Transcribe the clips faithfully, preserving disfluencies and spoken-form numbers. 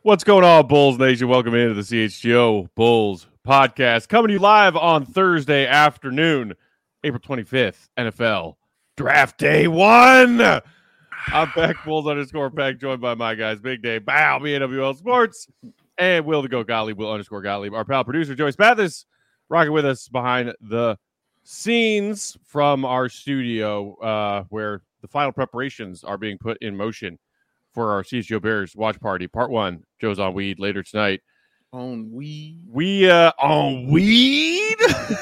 What's going on, Bulls Nation? Welcome into the C H G O Bulls podcast, coming to you live on Thursday afternoon, April twenty-fifth, N F L Draft Day one. I'm Peck Bulls underscore Peck, joined by my guys, Big Day, Bow, B N W L Sports, and Will the Go Gottlieb, Will underscore Gottlieb. Our pal producer, Joyce Mathis, rocking with us behind the scenes from our studio, uh, where the final preparations are being put in motion for our C H G O Bears watch party. Part one, Joe's on weed later tonight. On weed? We, uh, on weed?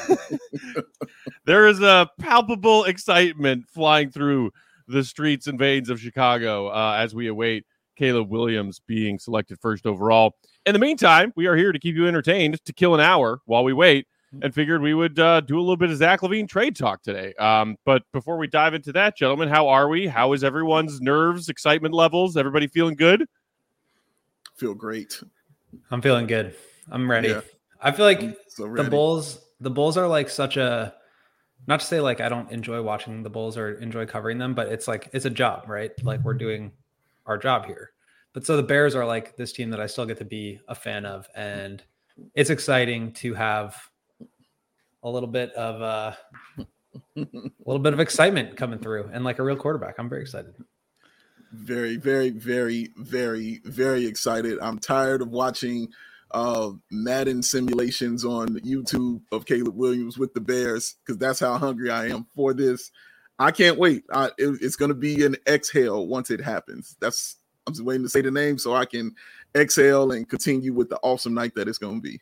There is a palpable excitement flying through the streets and veins of Chicago uh, as we await Caleb Williams being selected first overall. In the meantime, we are here to keep you entertained to kill an hour while we wait, and figured we would uh, do a little bit of Zach LaVine trade talk today. Um, but before we dive into that, gentlemen, how are we? How is everyone's nerves, excitement levels? Everybody feeling good? Feel great. I'm feeling good. I'm ready. Yeah. I feel like So the ready. Bulls, the Bulls are like such a, not to say like I don't enjoy watching the Bulls or enjoy covering them, but it's like, it's a job, right? Like we're doing our job here. But so the Bears are like this team that I still get to be a fan of. And it's exciting to have a little bit of uh, a little bit of excitement coming through and like a real quarterback. I'm very excited. Very, very, very, very, very excited. I'm tired of watching uh, Madden simulations on YouTube of Caleb Williams with the Bears because that's how hungry I am for this. I can't wait. I, it, it's going to be an exhale once it happens. That's I'm just waiting to say the name so I can exhale and continue with the awesome night that it's going to be.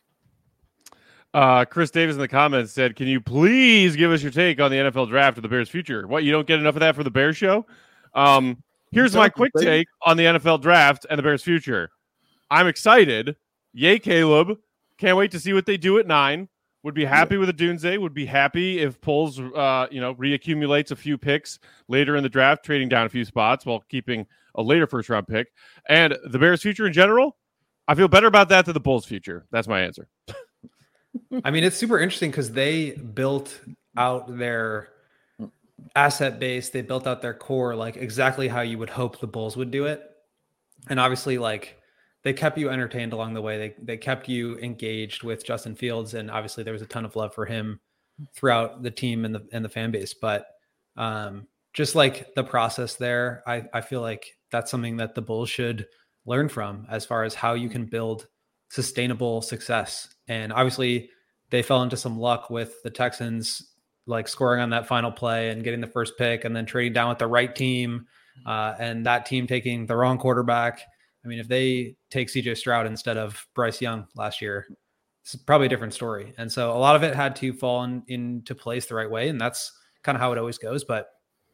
Uh, Chris Davis in the comments said, can you please give us your take on the N F L draft of the Bears' future? What, you don't get enough of that for the Bears show? Um, here's my quick take on the N F L draft and the Bears' future. I'm excited. Yay, Caleb. Can't wait to see what they do at nine. Would be happy yeah. with a Dunze. Would be happy if Poles, uh, you know, reaccumulates a few picks later in the draft, trading down a few spots while keeping a later first-round pick. And the Bears' future in general, I feel better about that than the Bulls' future. That's my answer. I mean, it's super interesting because they built out their asset base. They built out their core, like exactly how you would hope the Bulls would do it. And obviously, like they kept you entertained along the way. They they kept you engaged with Justin Fields. And obviously there was a ton of love for him throughout the team and the, and the fan base. But um, just like the process there, I, I feel like that's something that the Bulls should learn from as far as how you can build sustainable success. And obviously they fell into some luck with the Texans, like scoring on that final play and getting the first pick and then trading down with the right team uh, and that team taking the wrong quarterback. I mean, if they take C J Stroud instead of Bryce Young last year, it's probably a different story. And so a lot of it had to fall in, into place the right way. And that's kind of how it always goes. But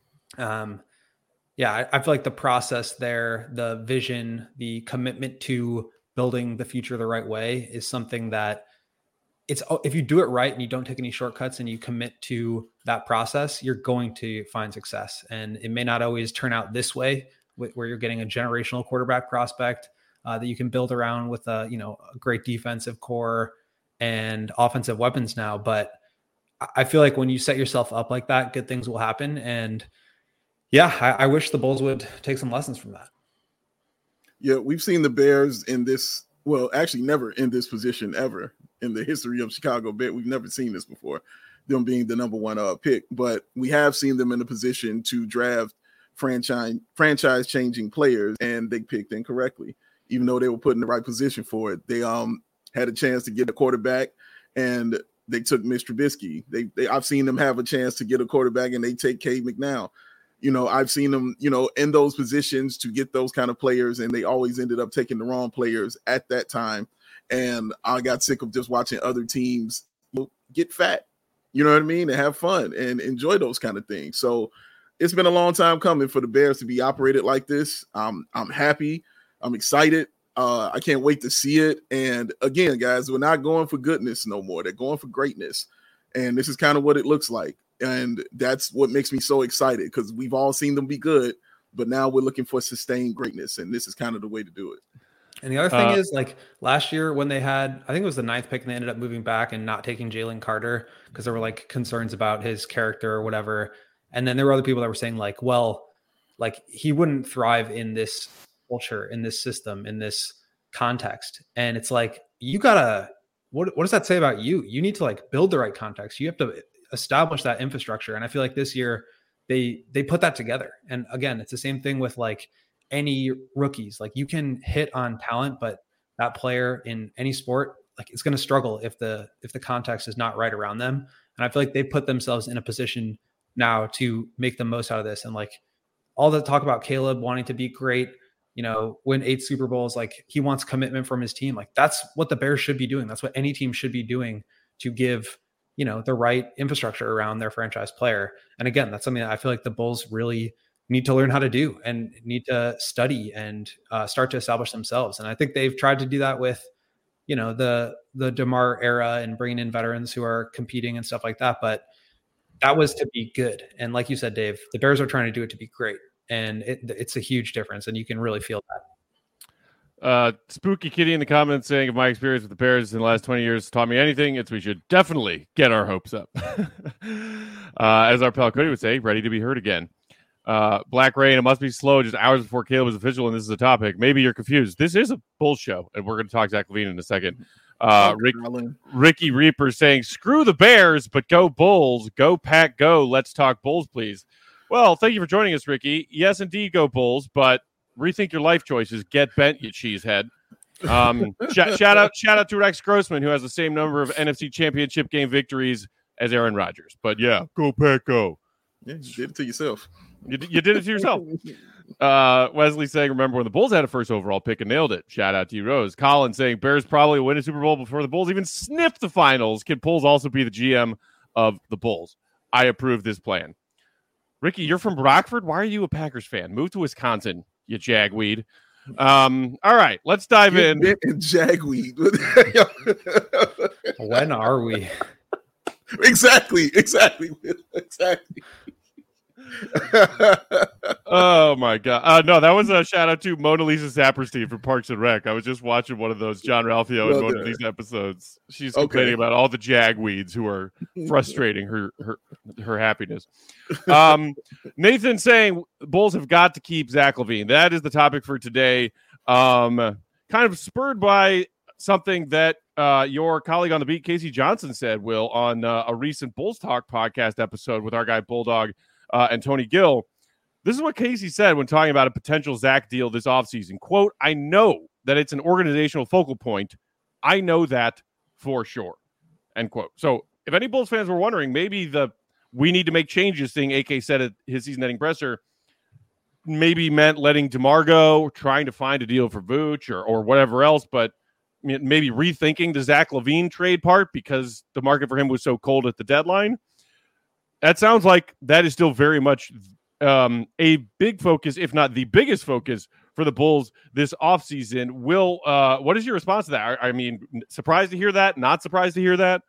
um, yeah, I, I feel like the process there, the vision, the commitment to building the future the right way is something that it's, if you do it right and you don't take any shortcuts and you commit to that process, you're going to find success. And it may not always turn out this way where you're getting a generational quarterback prospect uh, that you can build around with a, you know, a great defensive core and offensive weapons now. But I feel like when you set yourself up like that, good things will happen. And yeah, I, I wish the Bulls would take some lessons from that. Yeah, we've seen the Bears in this, well, actually never in this position ever in the history of Chicago Bears. We've never seen this before, them being the number one uh, pick. But we have seen them in a position to draft franchise franchise changing players, and they picked incorrectly, even though they were put in the right position for it. They um had a chance to get a quarterback, and they took Mitch Trubisky. They, they I've seen them have a chance to get a quarterback, and they take Cade McNown. You know, I've seen them, you know, in those positions to get those kind of players, and they always ended up taking the wrong players at that time. And I got sick of just watching other teams get fat, you know what I mean, and have fun and enjoy those kind of things. So it's been a long time coming for the Bears to be operated like this. Um, I'm happy. I'm excited. Uh, I can't wait to see it. And again, guys, we're not going for goodness no more. They're going for greatness. And this is kind of what it looks like. And that's what makes me so excited, because we've all seen them be good, but now we're looking for sustained greatness. And this is kind of the way to do it. And the other thing uh, is, like last year when they had, I think it was the ninth pick, and they ended up moving back and not taking Jalen Carter because there were like concerns about his character or whatever. And then there were other people that were saying like, well, like he wouldn't thrive in this culture, in this system, in this context. And it's like, you gotta, what, what does that say about you? You need to like build the right context. You have to establish that infrastructure. And I feel like this year they, they put that together. And again, it's the same thing with like any rookies. Like you can hit on talent, but that player in any sport, like it's going to struggle if the, if the context is not right around them. And I feel like they put themselves in a position now to make the most out of this. And like all the talk about Caleb wanting to be great, you know, win eight Super Bowls, like he wants commitment from his team. Like that's what the Bears should be doing. That's what any team should be doing to give, you know, the right infrastructure around their franchise player. And again, that's something that I feel like the Bulls really need to learn how to do and need to study and uh, start to establish themselves. And I think they've tried to do that with, you know, the, the DeMar era and bringing in veterans who are competing and stuff like that. But that was to be good. And like you said, Dave, the Bears are trying to do it to be great. And it, it's a huge difference. And you can really feel that. Uh, Spooky Kitty in the comments saying, if my experience with the Bears in the last twenty years taught me anything, it's we should definitely get our hopes up. uh, as our pal Cody would say, ready to be heard again. Uh, Black Rain, it must be slow just hours before Caleb was official and this is a topic. Maybe you're confused. This is a bull show, and we're going to talk Zach LaVine in a second. Uh, Rick, Ricky Reaper saying, screw the Bears, but go Bulls. Go Pack, go. Let's talk Bulls, please. Well, thank you for joining us, Ricky. Yes, indeed, go Bulls, but rethink your life choices. Get bent, you cheesehead. Um, sh- shout out shout out to Rex Grossman, who has the same number of N F C Championship game victories as Aaron Rodgers. But yeah, go Pack, go. Yeah, you did it to yourself. You, you did it to yourself. Uh, Wesley saying, remember when the Bulls had a first overall pick and nailed it. Shout out to you, Rose. Colin saying, Bears probably win a Super Bowl before the Bulls even sniff the finals. Can Bulls also be the G M of the Bulls? I approve this plan. Ricky, you're from Rockford. Why are you a Packers fan? Move to Wisconsin, you jagweed. Um, all right, let's dive Get in. bent and jagweed. When are we? Exactly, exactly, exactly. Oh my god! Uh, no, that was a shout out to Mona Lisa Saperstein from Parks and Rec. I was just watching one of those John Ralphio and well, Mona Lisa episodes. She's complaining okay. about all the jagweeds who are frustrating her her her happiness. Um, Nathan saying Bulls have got to keep Zach LaVine. That is the topic for today. Um, kind of spurred by something that uh, your colleague on the beat, Casey Johnson, said, Will, on uh, a recent Bulls Talk podcast episode with our guy Bulldog uh, and Tony Gill. This is what Casey said when talking about a potential Zach deal this offseason. Quote, I know that it's an organizational focal point. I know that for sure. End quote. So if any Bulls fans were wondering, maybe the we need to make changes thing A K said at his season-ending presser maybe meant letting DeMar go, trying to find a deal for Vooch or, or whatever else, but maybe rethinking the Zach LaVine trade part because the market for him was so cold at the deadline. That sounds like that is still very much um, a big focus, if not the biggest focus for the Bulls this offseason. Will, uh, what is your response to that? I, I mean, surprised to hear that? Not surprised to hear that?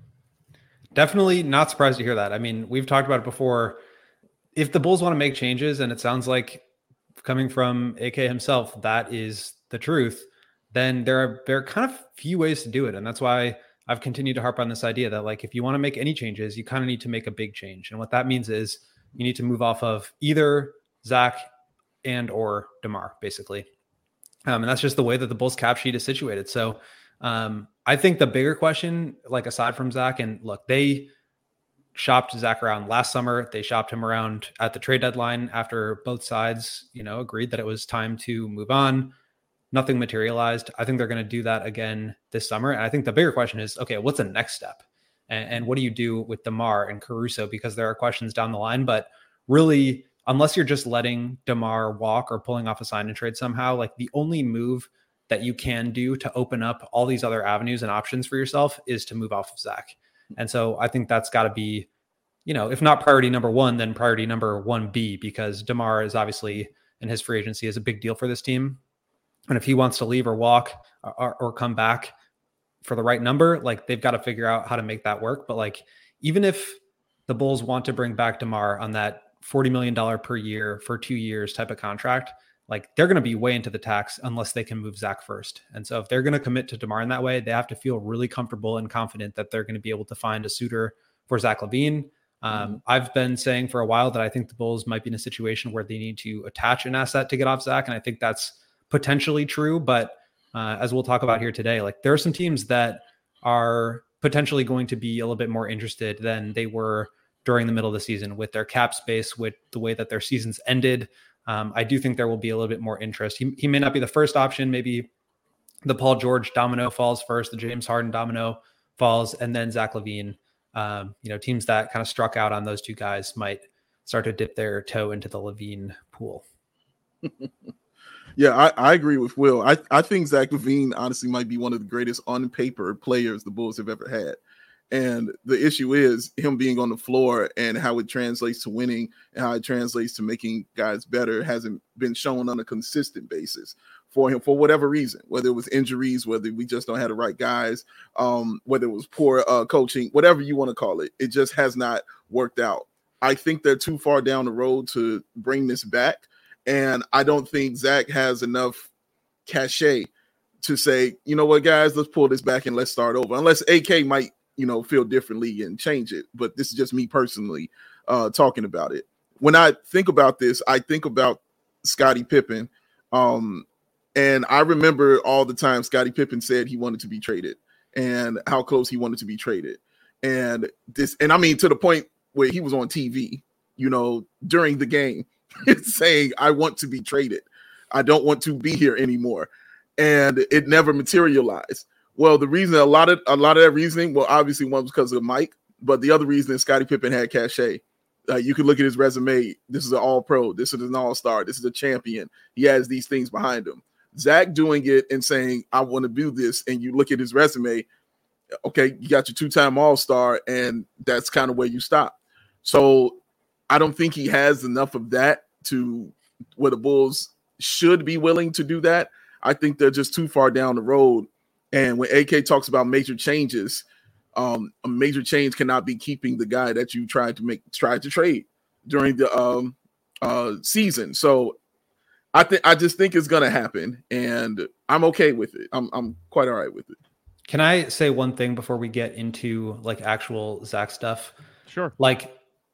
Definitely not surprised to hear that. I mean, we've talked about it before. If the Bulls want to make changes, and it sounds like coming from A K himself, that is the truth, then there are there are kind of few ways to do it. And that's why I've continued to harp on this idea that, like, if you want to make any changes, you kind of need to make a big change. And what that means is you need to move off of either Zach and or DeMar, basically. Um, and that's just the way that the Bulls cap sheet is situated. So um, I think the bigger question, like aside from Zach, and look, they shopped Zach around last summer. They shopped him around at the trade deadline after both sides, you know, agreed that it was time to move on. Nothing materialized. I think they're going to do that again this summer. And I think the bigger question is, okay, what's the next step? And, and what do you do with DeMar and Caruso? Because there are questions down the line, but really, unless you're just letting DeMar walk or pulling off a sign and trade somehow, like the only move that you can do to open up all these other avenues and options for yourself is to move off of Zach. And so I think that's got to be, you know, if not priority number one, then priority number one B, because DeMar is obviously, in his free agency, is a big deal for this team. And if he wants to leave or walk or, or come back for the right number, like they've got to figure out how to make that work. But like, even if the Bulls want to bring back DeMar on that forty million dollars per year for two years type of contract, like they're going to be way into the tax unless they can move Zach first. And so if they're going to commit to DeMar in that way, they have to feel really comfortable and confident that they're going to be able to find a suitor for Zach LaVine. Um, mm-hmm. I've been saying for a while that I think the Bulls might be in a situation where they need to attach an asset to get off Zach. And I think that's potentially true, but uh, as we'll talk about here today, like there are some teams that are potentially going to be a little bit more interested than they were during the middle of the season with their cap space, with the way that their seasons ended. Um, I do think there will be a little bit more interest. He, he may not be the first option. Maybe the Paul George domino falls first, the James Harden domino falls, and then Zach LaVine. Um, you know, teams that kind of struck out on those two guys might start to dip their toe into the LaVine pool. Yeah, I, I agree with Will. I, I think Zach LaVine honestly might be one of the greatest on paper players the Bulls have ever had. And the issue is him being on the floor and how it translates to winning and how it translates to making guys better hasn't been shown on a consistent basis for him for whatever reason, whether it was injuries, whether we just don't have the right guys, um, whether it was poor uh, coaching, whatever you want to call it. It just has not worked out. I think they're too far down the road to bring this back. And I don't think Zach has enough cachet to say, you know what, guys, let's pull this back and let's start over. Unless A K might, you know, feel differently and change it. But this is just me personally uh, talking about it. When I think about this, I think about Scottie Pippen. Um, and I remember all the time Scottie Pippen said he wanted to be traded and how close he wanted to be traded. And this, and I mean, to the point where he was on T V, you know, during the game saying, I want to be traded. I don't want to be here anymore. And it never materialized. Well, the reason, a lot of a lot of that reasoning, well, obviously one was because of Mike, but the other reason is Scottie Pippen had cachet. Uh, you can look at his resume. This is an all-pro. This is an all-star. This is a champion. He has these things behind him. Zach doing it and saying, I want to do this, and you look at his resume, okay, you got your two-time all-star, and that's kind of where you stop. So I don't think he has enough of that to where the Bulls should be willing to do that. I think they're just too far down the road. And when A K talks about major changes, um, a major change cannot be keeping the guy that you tried to make, tried to trade during the um, uh, season. So I think I just think it's going to happen, and I'm okay with it. I'm I'm quite all right with it. Can I say one thing before we get into like actual Zach stuff? Sure. Like,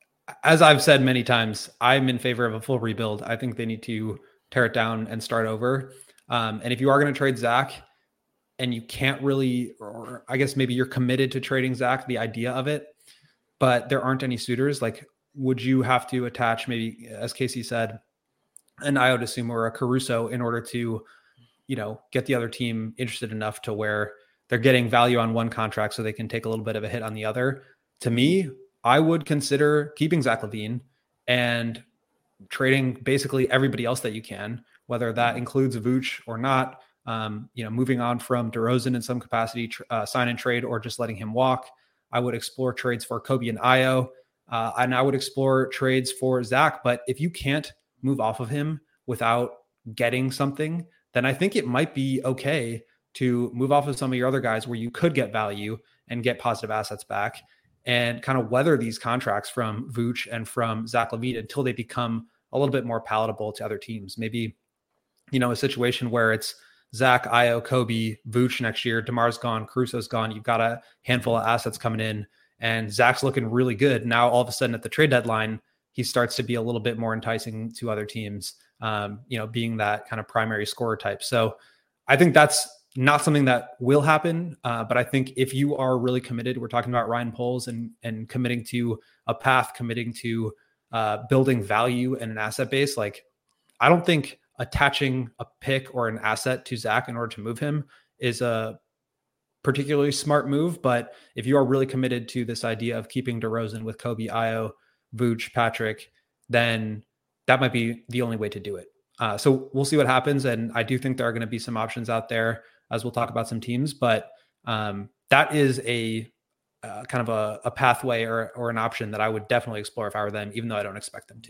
as I've said many times, I'm in favor of a full rebuild. I think they need to tear it down and start over. Um, and if you are going to trade Zach, and you can't really, or I guess maybe you're committed to trading Zach, the idea of it, but there aren't any suitors, like, would you have to attach maybe, as Casey said, an Ayo Dosunmu or a Caruso in order to, you know, get the other team interested enough to where they're getting value on one contract so they can take a little bit of a hit on the other? To me, I would consider keeping Zach LaVine and trading basically everybody else that you can, whether that includes Vooch or not. Um, you know, moving on from DeRozan in some capacity, tr- uh, sign and trade, or just letting him walk. I would explore trades for Kobe and Ayo, uh, and I would explore trades for Zach. But if you can't move off of him without getting something, then I think it might be okay to move off of some of your other guys where you could get value and get positive assets back and kind of weather these contracts from Vooch and from Zach LaVine until they become a little bit more palatable to other teams. Maybe, you know, a situation where it's Zach, Ayo, Kobe, Vooch next year, DeMar's gone, Caruso's gone. You've got a handful of assets coming in and Zach's looking really good. Now, all of a sudden at the trade deadline, he starts to be a little bit more enticing to other teams, um, you know, being that kind of primary scorer type. So I think that's not something that will happen. Uh, but I think if you are really committed, we're talking about Ryan Poles and, and committing to a path, committing to uh, building value in an asset base. Like, I don't think attaching a pick or an asset to Zach in order to move him is a particularly smart move. But if you are really committed to this idea of keeping DeRozan with Kobe, Ayo, Vooch, Patrick, then that might be the only way to do it. Uh, so we'll see what happens. And I do think there are going to be some options out there as we'll talk about some teams, but um, that is a uh, kind of a, a pathway or, or an option that I would definitely explore if I were them, even though I don't expect them to.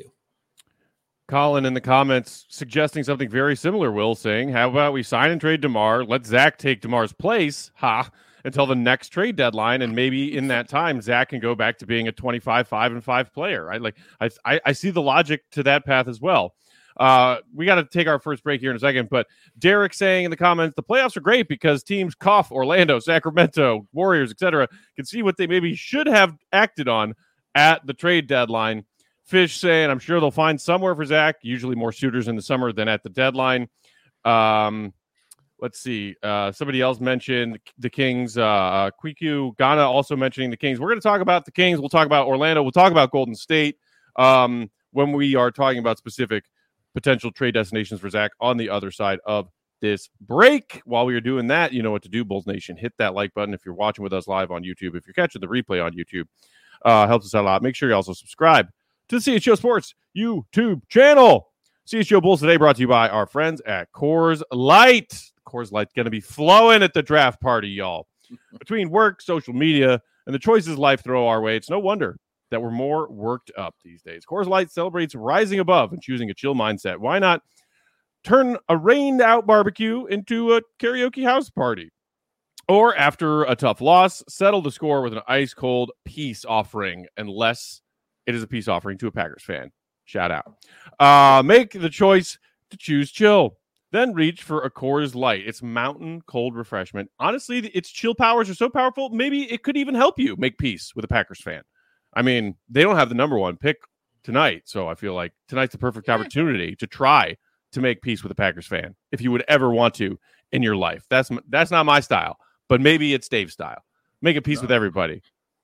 Colin in the comments suggesting something very similar, Will, saying, how about we sign and trade DeMar, let Zach take DeMar's place, ha, until the next trade deadline, and maybe in that time, Zach can go back to being a twenty-five, five, and five player, right? Like, I, I, I see the logic to that path as well. Uh, we got to take our first break here in a second, but Derek saying in the comments, the playoffs are great because teams cough Orlando, Sacramento, Warriors, et cetera, can see what they maybe should have acted on at the trade deadline. Fish saying, I'm sure they'll find somewhere for Zach, usually more suitors in the summer than at the deadline. Um, let's see. Uh, somebody else mentioned the Kings. Uh, uh, Kwiku Ghana also mentioning the Kings. We're going to talk about the Kings. We'll talk about Orlando. We'll talk about Golden State um, when we are talking about specific potential trade destinations for Zach on the other side of this break. While we are doing that, you know what to do, Bulls Nation. Hit that like button if you're watching with us live on YouTube. If you're catching the replay on YouTube, uh, helps us out a lot. Make sure you also subscribe to the C H G O Sports YouTube channel. C H G O Bulls today brought to you by our friends at Coors Light. Coors Light going to be flowing at the draft party, y'all. Between work, social media, and the choices life throw our way, it's no wonder that we're more worked up these days. Coors Light celebrates rising above and choosing a chill mindset. Why not turn a rained-out barbecue into a karaoke house party? Or after a tough loss, settle the score with an ice-cold peace offering, unless it is a peace offering to a Packers fan. Shout out. Uh, make the choice to choose chill. Then reach for a Coors Light. It's mountain cold refreshment. Honestly, its chill powers are so powerful, maybe it could even help you make peace with a Packers fan. I mean, they don't have the number one pick tonight, so I feel like tonight's the perfect opportunity to try to make peace with a Packers fan, if you would ever want to in your life. That's that's not my style, but maybe it's Dave's style. Make a peace no. with everybody.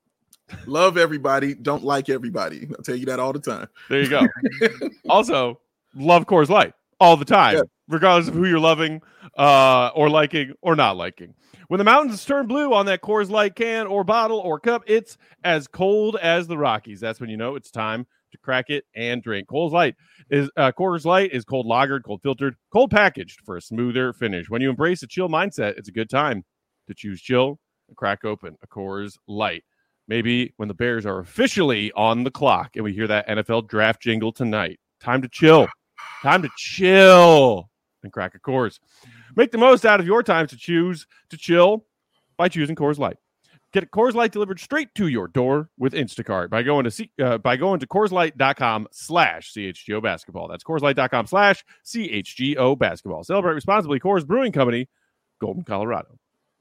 Love everybody, don't like everybody. I'll tell you that all the time. There you go. Also, love Coors Light all the time, yeah. regardless of who you're loving uh, or liking or not liking. When the mountains turn blue on that Coors Light can or bottle or cup, it's as cold as the Rockies. That's when you know it's time to crack it and drink. Coors Light is uh, Coors Light is cold lagered, cold filtered, cold packaged for a smoother finish. When you embrace a chill mindset, it's a good time to choose chill and crack open a Coors Light. Maybe when the Bears are officially on the clock and we hear that N F L draft jingle tonight. Time to chill. Time to chill and crack a Coors. Make the most out of your time to choose to chill by choosing Coors Light. Get Coors Light delivered straight to your door with Instacart by going to C, uh, by going to CoorsLight.com slash CHGO basketball. That's CoorsLight.com slash CHGO basketball. Celebrate responsibly. Coors Brewing Company, Golden, Colorado.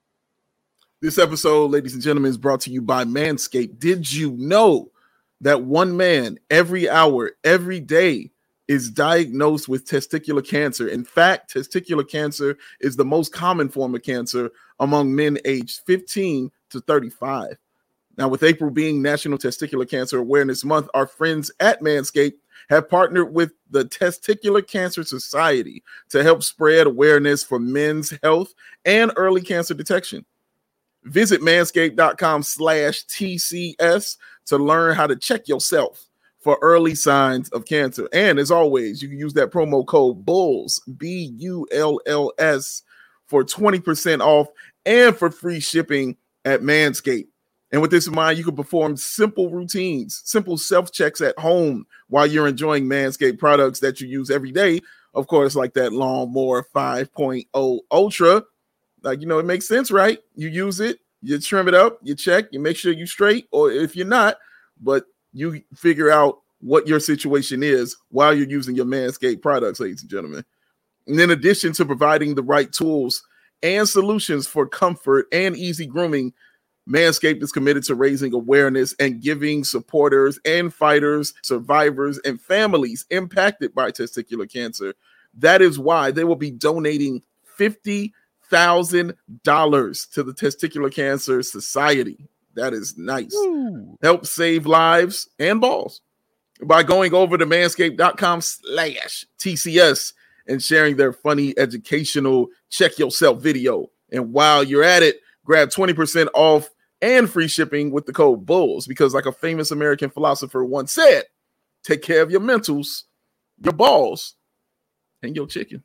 This episode, ladies and gentlemen, is brought to you by Manscaped. Did you know that one man every hour, every day is diagnosed with testicular cancer? In fact, testicular cancer is the most common form of cancer among men aged fifteen to thirty-five. Now, with April being National Testicular Cancer Awareness Month, our friends at Manscaped have partnered with the Testicular Cancer Society to help spread awareness for men's health and early cancer detection. Visit manscaped.com slash TCS to learn how to check yourself for early signs of cancer. And as always, you can use that promo code BULLS, B U L L S, for twenty percent off and for free shipping at Manscaped. And with this in mind, you can perform simple routines, simple self-checks at home while you're enjoying Manscaped products that you use every day. Of course, like that Lawnmower five point oh Ultra. Like, you know, it makes sense, right? You use it, you trim it up, you check, you make sure you're straight, or if you're not, but you figure out what your situation is while you're using your Manscaped products, ladies and gentlemen. And in addition to providing the right tools and solutions for comfort and easy grooming, Manscaped is committed to raising awareness and giving supporters and fighters, survivors, and families impacted by testicular cancer. That is why they will be donating fifty thousand dollars to the Testicular Cancer Society. That is nice. Ooh. Help save lives and balls by going over to manscaped.com slash TCS and sharing their funny educational check yourself video. And while you're at it, grab twenty percent off and free shipping with the code BULLS, because like a famous American philosopher once said, take care of your mentals, your balls, and your chicken.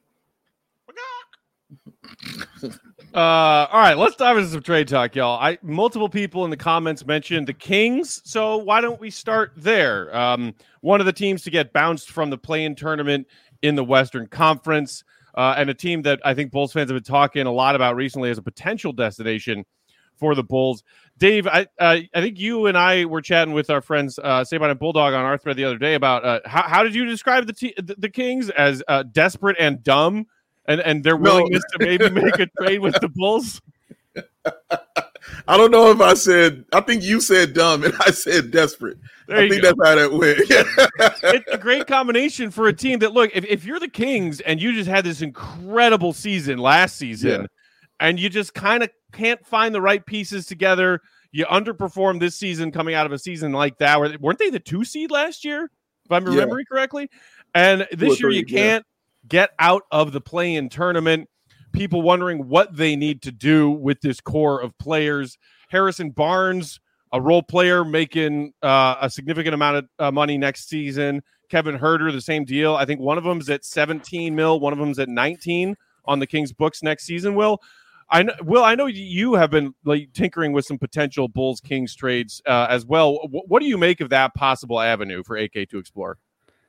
uh all right, let's dive into some trade talk, y'all. I multiple people in the comments mentioned the Kings, so why don't we start there? Um one of the teams to get bounced from the play-in tournament in the Western Conference, uh and a team that I think Bulls fans have been talking a lot about recently as a potential destination for the Bulls. Dave, I uh, I think you and I were chatting with our friends uh Saban and Bulldog on our thread the other day about uh how, how did you describe the te- the, the Kings as uh, desperate and dumb? And and their willingness no. to maybe make a trade with the Bulls? I don't know if I said, I think you said dumb and I said desperate. There I think go. that's how that went. It's a great combination for a team that, look, if, if you're the Kings and you just had this incredible season last season yeah. and you just kind of can't find the right pieces together, you underperformed this season coming out of a season like that. Where, weren't they the two seed last year, if I'm remembering yeah. correctly? And this year you can't yeah. get out of the play-in tournament. People wondering what they need to do with this core of players. Harrison Barnes, a role player making uh, a significant amount of uh, money next season. Kevin Huerter, the same deal. I think one of them's at seventeen mil, one of them's at nineteen on the Kings books next season. Will, I know, Will, I know you have been like tinkering with some potential Bulls Kings trades uh, as well. W- what do you make of that possible avenue for A K to explore?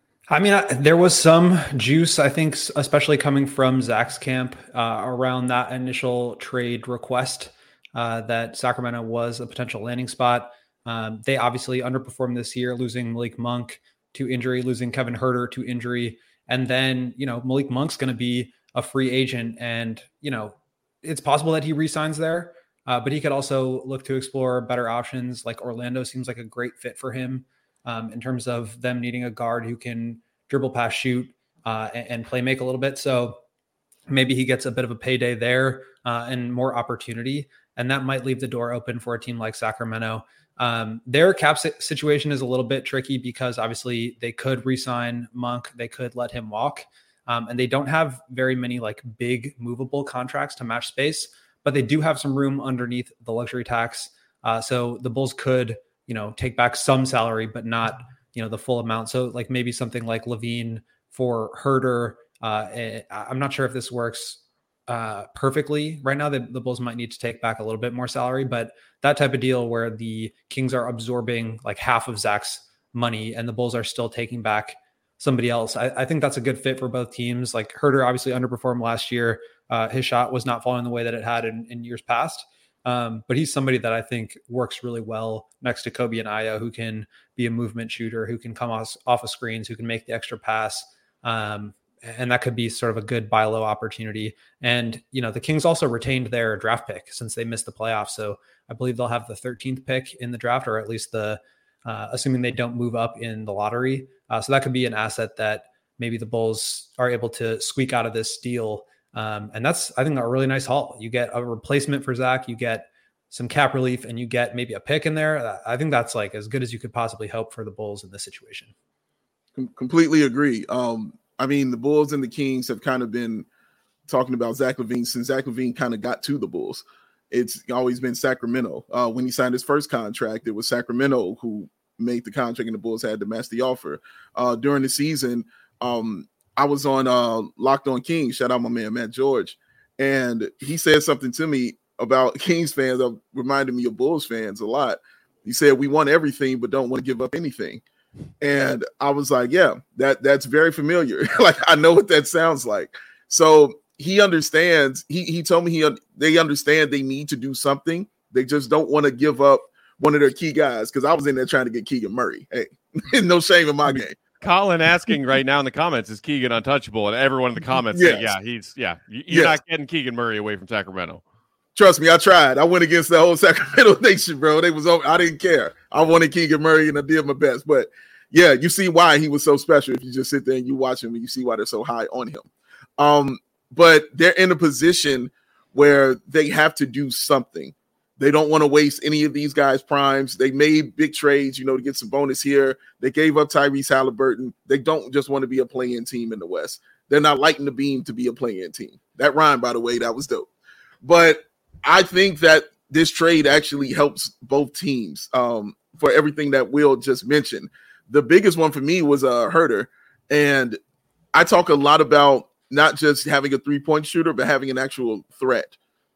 I mean, I, there was some juice, I think, especially coming from Zach's camp uh, around that initial trade request uh, that Sacramento was a potential landing spot. Um, they obviously underperformed this year, losing Malik Monk to injury, losing Kevin Huerter to injury. And then, you know, Malik Monk's going to be a free agent and, you know, it's possible that he re-signs there, uh, but he could also look to explore better options. Like Orlando seems like a great fit for him. Um, in terms of them needing a guard who can dribble, pass, shoot, uh, and, and play make a little bit. So maybe he gets a bit of a payday there uh, and more opportunity. And that might leave the door open for a team like Sacramento. Um, their cap situation is a little bit tricky because obviously they could re-sign Monk. They could let him walk. Um, and they don't have very many like big movable contracts to match space, but they do have some room underneath the luxury tax. Uh, so the Bulls could, you know, take back some salary, but not, you know, the full amount. So like maybe something like Levine for Huerter. Uh, I'm not sure if this works uh, perfectly right now. The, the Bulls might need to take back a little bit more salary, but that type of deal where the Kings are absorbing like half of Zach's money and the Bulls are still taking back somebody else. I, I think that's a good fit for both teams. Like Huerter obviously underperformed last year. Uh, his shot was not falling the way that it had in, in years past. Um, but he's somebody that I think works really well next to Kobe and Ayo, who can be a movement shooter, who can come off, off of screens, who can make the extra pass. Um, and that could be sort of a good buy low opportunity. And, you know, the Kings also retained their draft pick since they missed the playoffs. So I believe they'll have the thirteenth pick in the draft, or at least the, uh, assuming they don't move up in the lottery. Uh, so that could be an asset that maybe the Bulls are able to squeak out of this deal. Um, and that's, I think, a really nice haul. You get a replacement for Zach, you get some cap relief, and you get maybe a pick in there. I think that's like as good as you could possibly hope for the Bulls in this situation. Com- completely agree. Um, I mean, the Bulls and the Kings have kind of been talking about Zach LaVine since Zach LaVine kind of got to the Bulls. It's always been Sacramento. Uh, when he signed his first contract, it was Sacramento who made the contract and the Bulls had to match the offer. Uh, during the season, um, I was on uh, Locked on Kings. Shout out my man, Matt George. And he said something to me about Kings fans that reminded me of Bulls fans a lot. He said, we want everything, but don't want to give up anything. And I was like, yeah, that that's very familiar. Like, I know what that sounds like. So he understands. He he told me he they understand they need to do something. They just don't want to give up one of their key guys, because I was in there trying to get Keegan Murray. Hey, no shame in my game. Colin asking right now in the comments, is Keegan untouchable? And everyone in the comments yes. say, yeah, he's, yeah, you're yes. not getting Keegan Murray away from Sacramento. Trust me, I tried. I went against the whole Sacramento nation, bro. They was over. I didn't care. I wanted Keegan Murray, and I did my best. But yeah, you see why he was so special. If you just sit there and you watch him, and you see why they're so high on him. Um, but they're in a position where they have to do something. They don't want to waste any of these guys' primes. They made big trades, you know, to get some bonus here. They gave up Tyrese Halliburton. They don't just want to be a play-in team in the West. They're not lighting the beam to be a play-in team. That rhyme, by the way, that was dope. But I think that this trade actually helps both teams um, for everything that Will just mentioned. The biggest one for me was uh, Huerter. And I talk a lot about not just having a three-point shooter, but having an actual threat.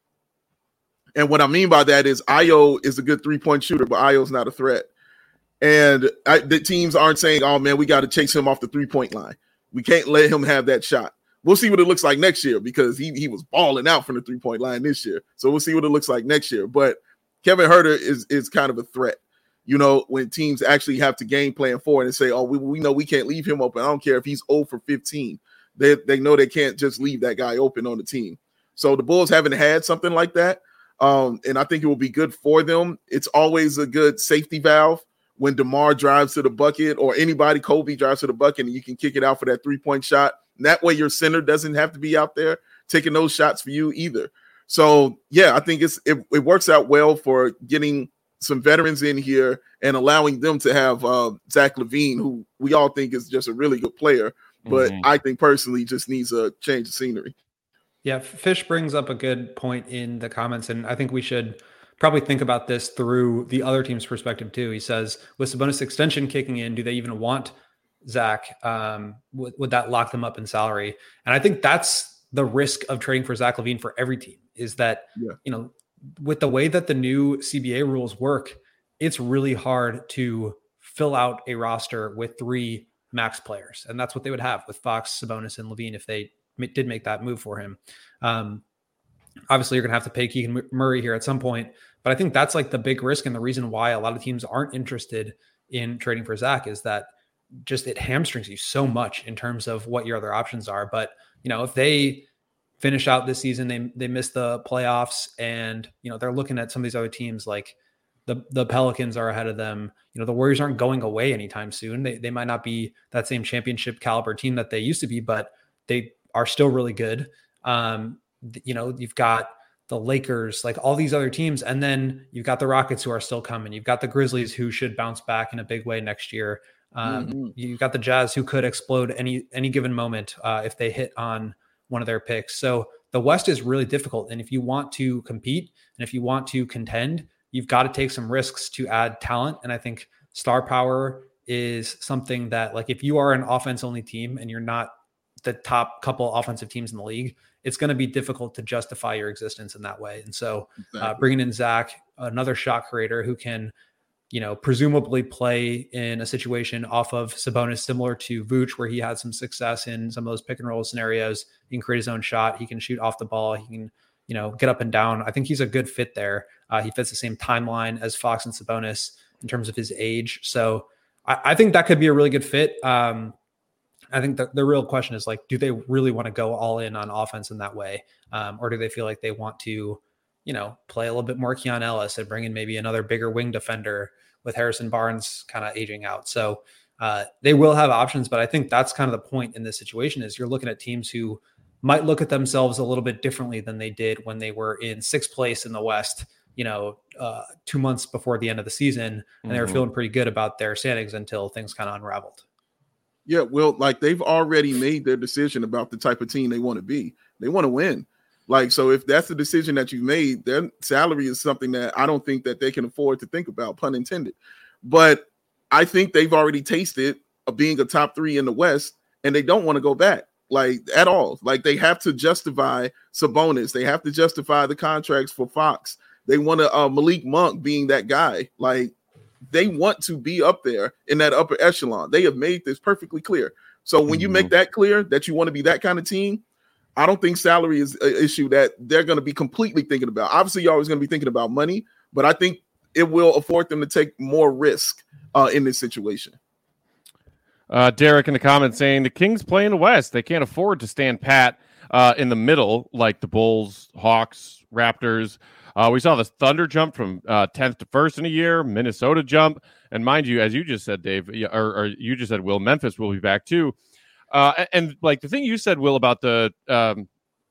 And what I mean by that is Ayo is a good three-point shooter, but Ayo's not a threat. And I, the teams aren't saying, oh, man, we got to chase him off the three-point line. We can't let him have that shot. We'll see what it looks like next year, because he, he was balling out from the three-point line this year. So we'll see what it looks like next year. But Kevin Huerter is, is kind of a threat. You know, when teams actually have to game plan for it and say, oh, we, we know we can't leave him open. I don't care if he's zero for fifteen. They, they know they can't just leave that guy open on the team. So the Bulls haven't had something like that. Um, and I think it will be good for them. It's always a good safety valve when DeMar drives to the bucket or anybody, Kobe drives to the bucket, and you can kick it out for that three-point shot. And that way your center doesn't have to be out there taking those shots for you either. So, yeah, I think it's it, it works out well for getting some veterans in here and allowing them to have uh, Zach LaVine, who we all think is just a really good player, but mm-hmm. I think personally just needs a change of scenery. Yeah, Fish brings up a good point in the comments, and I think we should probably think about this through the other team's perspective too. He says, with Sabonis extension kicking in, do they even want Zach? Um, would, would that lock them up in salary? And I think that's the risk of trading for Zach LaVine for every team, is that, yeah. you know, with the way that the new C B A rules work, it's really hard to fill out a roster with three max players. And that's what they would have with Fox, Sabonis, and LaVine if they did make that move for him. Um, obviously, you're going to have to pay Keegan Murray here at some point, but I think that's like the big risk, and the reason why a lot of teams aren't interested in trading for Zach is that just it hamstrings you so much in terms of what your other options are. But, you know, if they finish out this season, they they miss the playoffs, and, you know, they're looking at some of these other teams, like the the Pelicans are ahead of them. You know, the Warriors aren't going away anytime soon. They they might not be that same championship caliber team that they used to be, but they are still really good. Um, you know, you've got the Lakers, like all these other teams, and then you've got the Rockets who are still coming. You've got the Grizzlies who should bounce back in a big way next year. Um, mm-hmm. You've got the Jazz who could explode any any given moment uh, if they hit on one of their picks. So the West is really difficult, and if you want to compete and if you want to contend, you've got to take some risks to add talent. And I think star power is something that, like, if you are an offense only team and you're not the top couple offensive teams in the league, it's going to be difficult to justify your existence in that way. And so exactly. uh, bringing in Zach, another shot creator who can, you know, presumably play in a situation off of Sabonis, similar to Vooch, where he had some success in some of those pick and roll scenarios. He can create his own shot. He can shoot off the ball. He can, you know, get up and down. I think he's a good fit there. Uh, he fits the same timeline as Fox and Sabonis in terms of his age. So I, I think that could be a really good fit. Um, I think the, the real question is, like, do they really want to go all in on offense in that way? Um, or do they feel like they want to, you know, play a little bit more Keon Ellis and bring in maybe another bigger wing defender with Harrison Barnes kind of aging out? So uh, they will have options, but I think that's kind of the point in this situation, is you're looking at teams who might look at themselves a little bit differently than they did when they were in sixth place in the West, you know, uh, two months before the end of the season. And mm-hmm. they were feeling pretty good about their standings until things kind of unraveled. Yeah, well, like, they've already made their decision about the type of team they want to be. They want to win. Like, so if that's the decision that you've made, their salary is something that I don't think that they can afford to think about, pun intended. But I think they've already tasted of being a top three in the West, and they don't want to go back, like, at all. Like, they have to justify Sabonis. They have to justify the contracts for Fox. They want to uh, Malik Monk being that guy. Like, they want to be up there in that upper echelon. They have made this perfectly clear. So when you make that clear that you want to be that kind of team, I don't think salary is an issue that they're going to be completely thinking about. Obviously, you're always going to be thinking about money, but I think it will afford them to take more risk uh, in this situation. Uh, Derek in the comments saying the Kings play in the West. They can't afford to stand pat uh, in the middle like the Bulls, Hawks, Raptors. Uh, we saw the Thunder jump from uh, tenth to first in a year, Minnesota jump. And mind you, as you just said, Dave, or, or you just said, Will, Memphis will be back too. Uh, and, and like the thing you said, Will, about the um,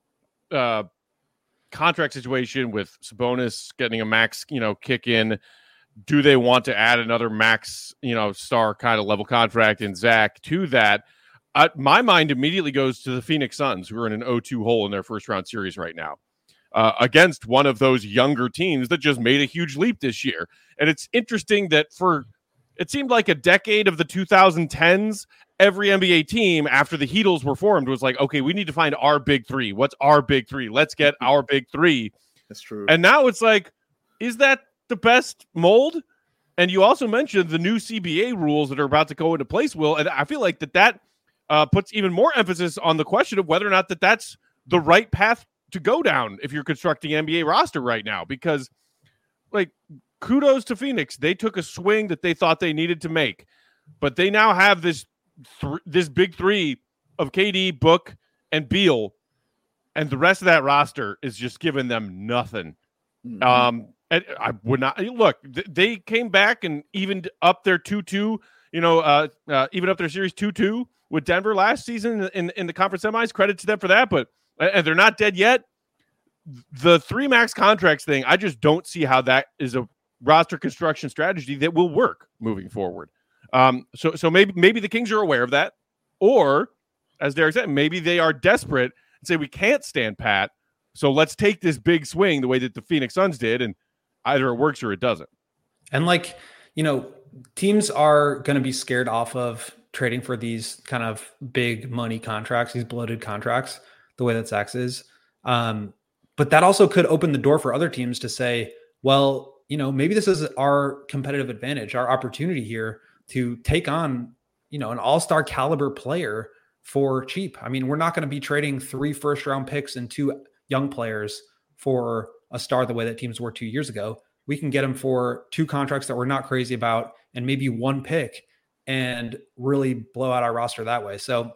uh, contract situation with Sabonis getting a max, you know, kick in. Do they want to add another max, you know, star kind of level contract in Zach to that? Uh, my mind immediately goes to the Phoenix Suns, who are in an oh two hole in their first round series right now. Uh, against one of those younger teams that just made a huge leap this year. And it's interesting that for, it seemed like a decade of the two thousand tens, every N B A team after the Heatles were formed was like, okay, we need to find our big three. What's our big three? Let's get our big three. That's true. And now it's like, is that the best mold? And you also mentioned the new C B A rules that are about to go into place, Will. And I feel like that that uh, puts even more emphasis on the question of whether or not that that's the right path to go down if you're constructing an N B A roster right now, because, like, kudos to Phoenix. They took a swing that they thought they needed to make, but they now have this, th- this big three of K D, Book, and Beal, and the rest of that roster is just giving them nothing. Mm-hmm. Um, and I would not look. They came back and evened up their two two. You know, uh, uh, even up their series two two with Denver last season in in the conference semis. Credit to them for that. But and they're not dead yet. The three max contracts thing, I just don't see how that is a roster construction strategy that will work moving forward. Um, so so maybe maybe the Kings are aware of that, or as Derek said, maybe they are desperate and say we can't stand pat. So let's take this big swing the way that the Phoenix Suns did, and either it works or it doesn't. And like, you know, teams are going to be scared off of trading for these kind of big money contracts, these bloated contracts, the way that Zach is. Um, but that also could open the door for other teams to say, well, you know, maybe this is our competitive advantage, our opportunity here to take on, you know, an all-star caliber player for cheap. I mean, we're not going to be trading three first round picks and two young players for a star the way that teams were two years ago. We can get them for two contracts that we're not crazy about and maybe one pick and really blow out our roster that way. So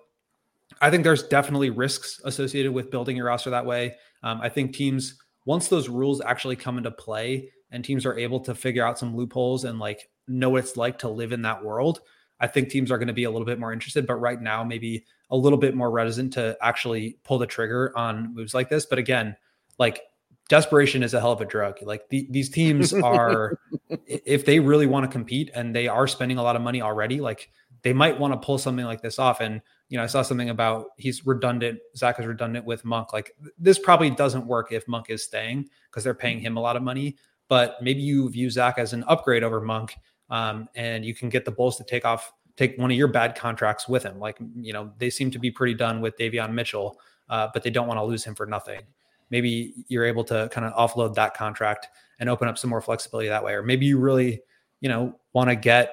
I think there's definitely risks associated with building your roster that way. Um, I think teams, once those rules actually come into play and teams are able to figure out some loopholes and like know what it's like to live in that world, I think teams are going to be a little bit more interested, but right now maybe a little bit more reticent to actually pull the trigger on moves like this. But again, like desperation is a hell of a drug. Like the, these teams are, if they really want to compete and they are spending a lot of money already, like they might want to pull something like this off. And, you know, I saw something about he's redundant. Zach is redundant with Monk. Like this probably doesn't work if Monk is staying because they're paying him a lot of money, but maybe you view Zach as an upgrade over Monk. Um, and you can get the Bulls to take off, take one of your bad contracts with him. Like, you know, they seem to be pretty done with Davion Mitchell, uh, but they don't want to lose him for nothing. Maybe you're able to kind of offload that contract and open up some more flexibility that way. Or maybe you really, you know, want to get,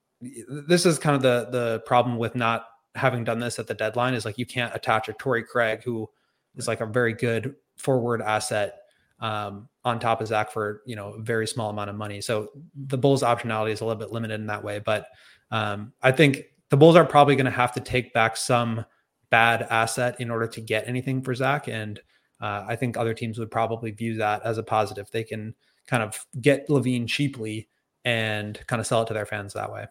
this is kind of the, the problem with not having done this at the deadline is like, you can't attach a Torrey Craig, who is like a very good forward asset, um, on top of Zach for, you know, a very small amount of money. So the Bulls optionality is a little bit limited in that way, but um, I think the Bulls are probably going to have to take back some bad asset in order to get anything for Zach. And uh, I think other teams would probably view that as a positive. They can kind of get LaVine cheaply and kind of sell it to their fans that way.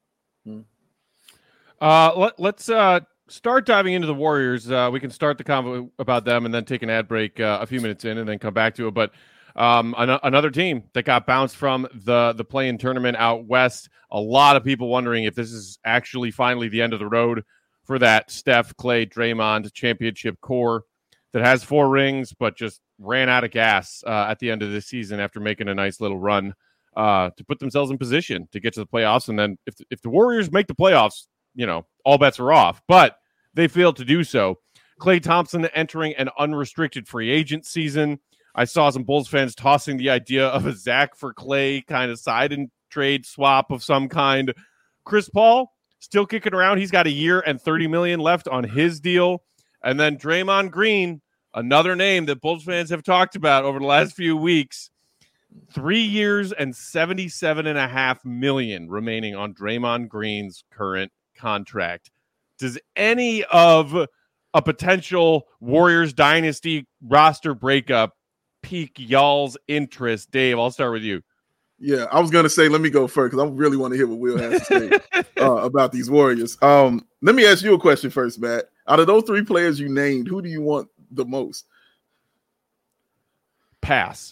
Uh, let, let's uh, start diving into the Warriors. Uh, we can start the convo about them and then take an ad break uh, a few minutes in and then come back to it. But Um, an- another team that got bounced from the, the play-in tournament out west. A lot of people wondering if this is actually finally the end of the road for that Steph, Clay, Draymond championship core that has four rings, but just ran out of gas uh, at the end of the season after making a nice little run uh, to put themselves in position to get to the playoffs. And then if, if the Warriors make the playoffs, you know, all bets are off, but they failed to do so. Klay Thompson entering an unrestricted free agent season. I saw some Bulls fans tossing the idea of a Zach for Clay kind of side and trade swap of some kind. Chris Paul still kicking around. He's got a year and thirty million dollars left on his deal. And then Draymond Green, another name that Bulls fans have talked about over the last few weeks. Three years and seventy-seven and a half million remaining on Draymond Green's current contract. Does any of a potential Warriors dynasty roster breakup pique y'all's interest? Dave, I'll start with you. Yeah, I was gonna say, let me go first because I really want to hear what Will has to say uh, about these Warriors. Um, let me ask you a question first, Matt. Out of those three players you named, who do you want the most? Pass.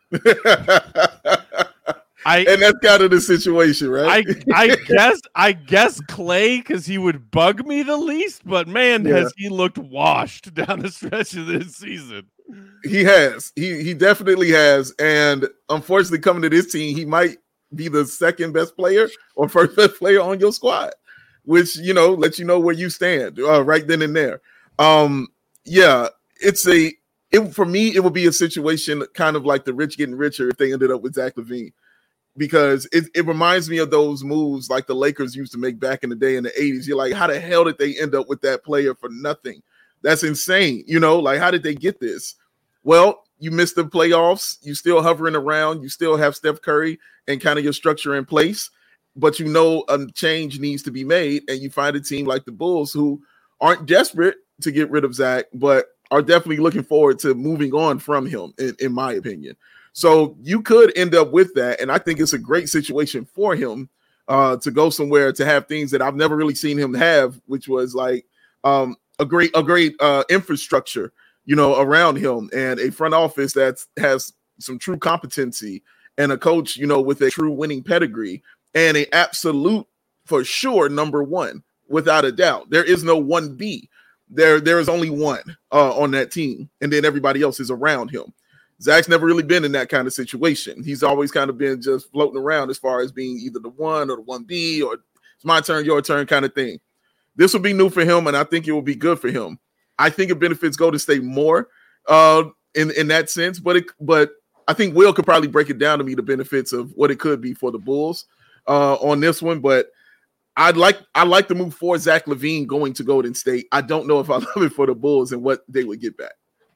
I and that's kind of the situation, right? I I guess I guess Clay, because he would bug me the least, but man, yeah. has he looked washed down the stretch of this season. He has. He he definitely has. And unfortunately, coming to this team, he might be the second best player or first best player on your squad, which, you know, lets you know where you stand uh, right then and there. Um, yeah, it's a it for me, it would be a situation kind of like the rich getting richer if they ended up with Zach LaVine. Because it, it reminds me of those moves like the Lakers used to make back in the day in the eighties. You're like, how the hell did they end up with that player for nothing? That's insane. You know, like, how did they get this? Well, you missed the playoffs. You still hovering around. You still have Steph Curry and kind of your structure in place. But you know a change needs to be made. And you find a team like the Bulls who aren't desperate to get rid of Zach, but are definitely looking forward to moving on from him, in, in my opinion. So you could end up with that. And I think it's a great situation for him uh, to go somewhere to have things that I've never really seen him have, which was like um, a great, a great uh, infrastructure, you know, around him, and a front office that has some true competency, and a coach, you know, with a true winning pedigree, and a absolute, for sure, number one, without a doubt. There is no one B. There, there is only one uh, on that team, and then everybody else is around him. Zach's never really been in that kind of situation. He's always kind of been just floating around as far as being either the one or the one B, or it's my turn, your turn kind of thing. This will be new for him, and I think it will be good for him. I think it benefits Golden State more uh, in, in that sense, but it, but I think Will could probably break it down to me, the benefits of what it could be for the Bulls uh, on this one. But I'd like I like the move for Zach LaVine going to Golden State. I don't know if I love it for the Bulls and what they would get back.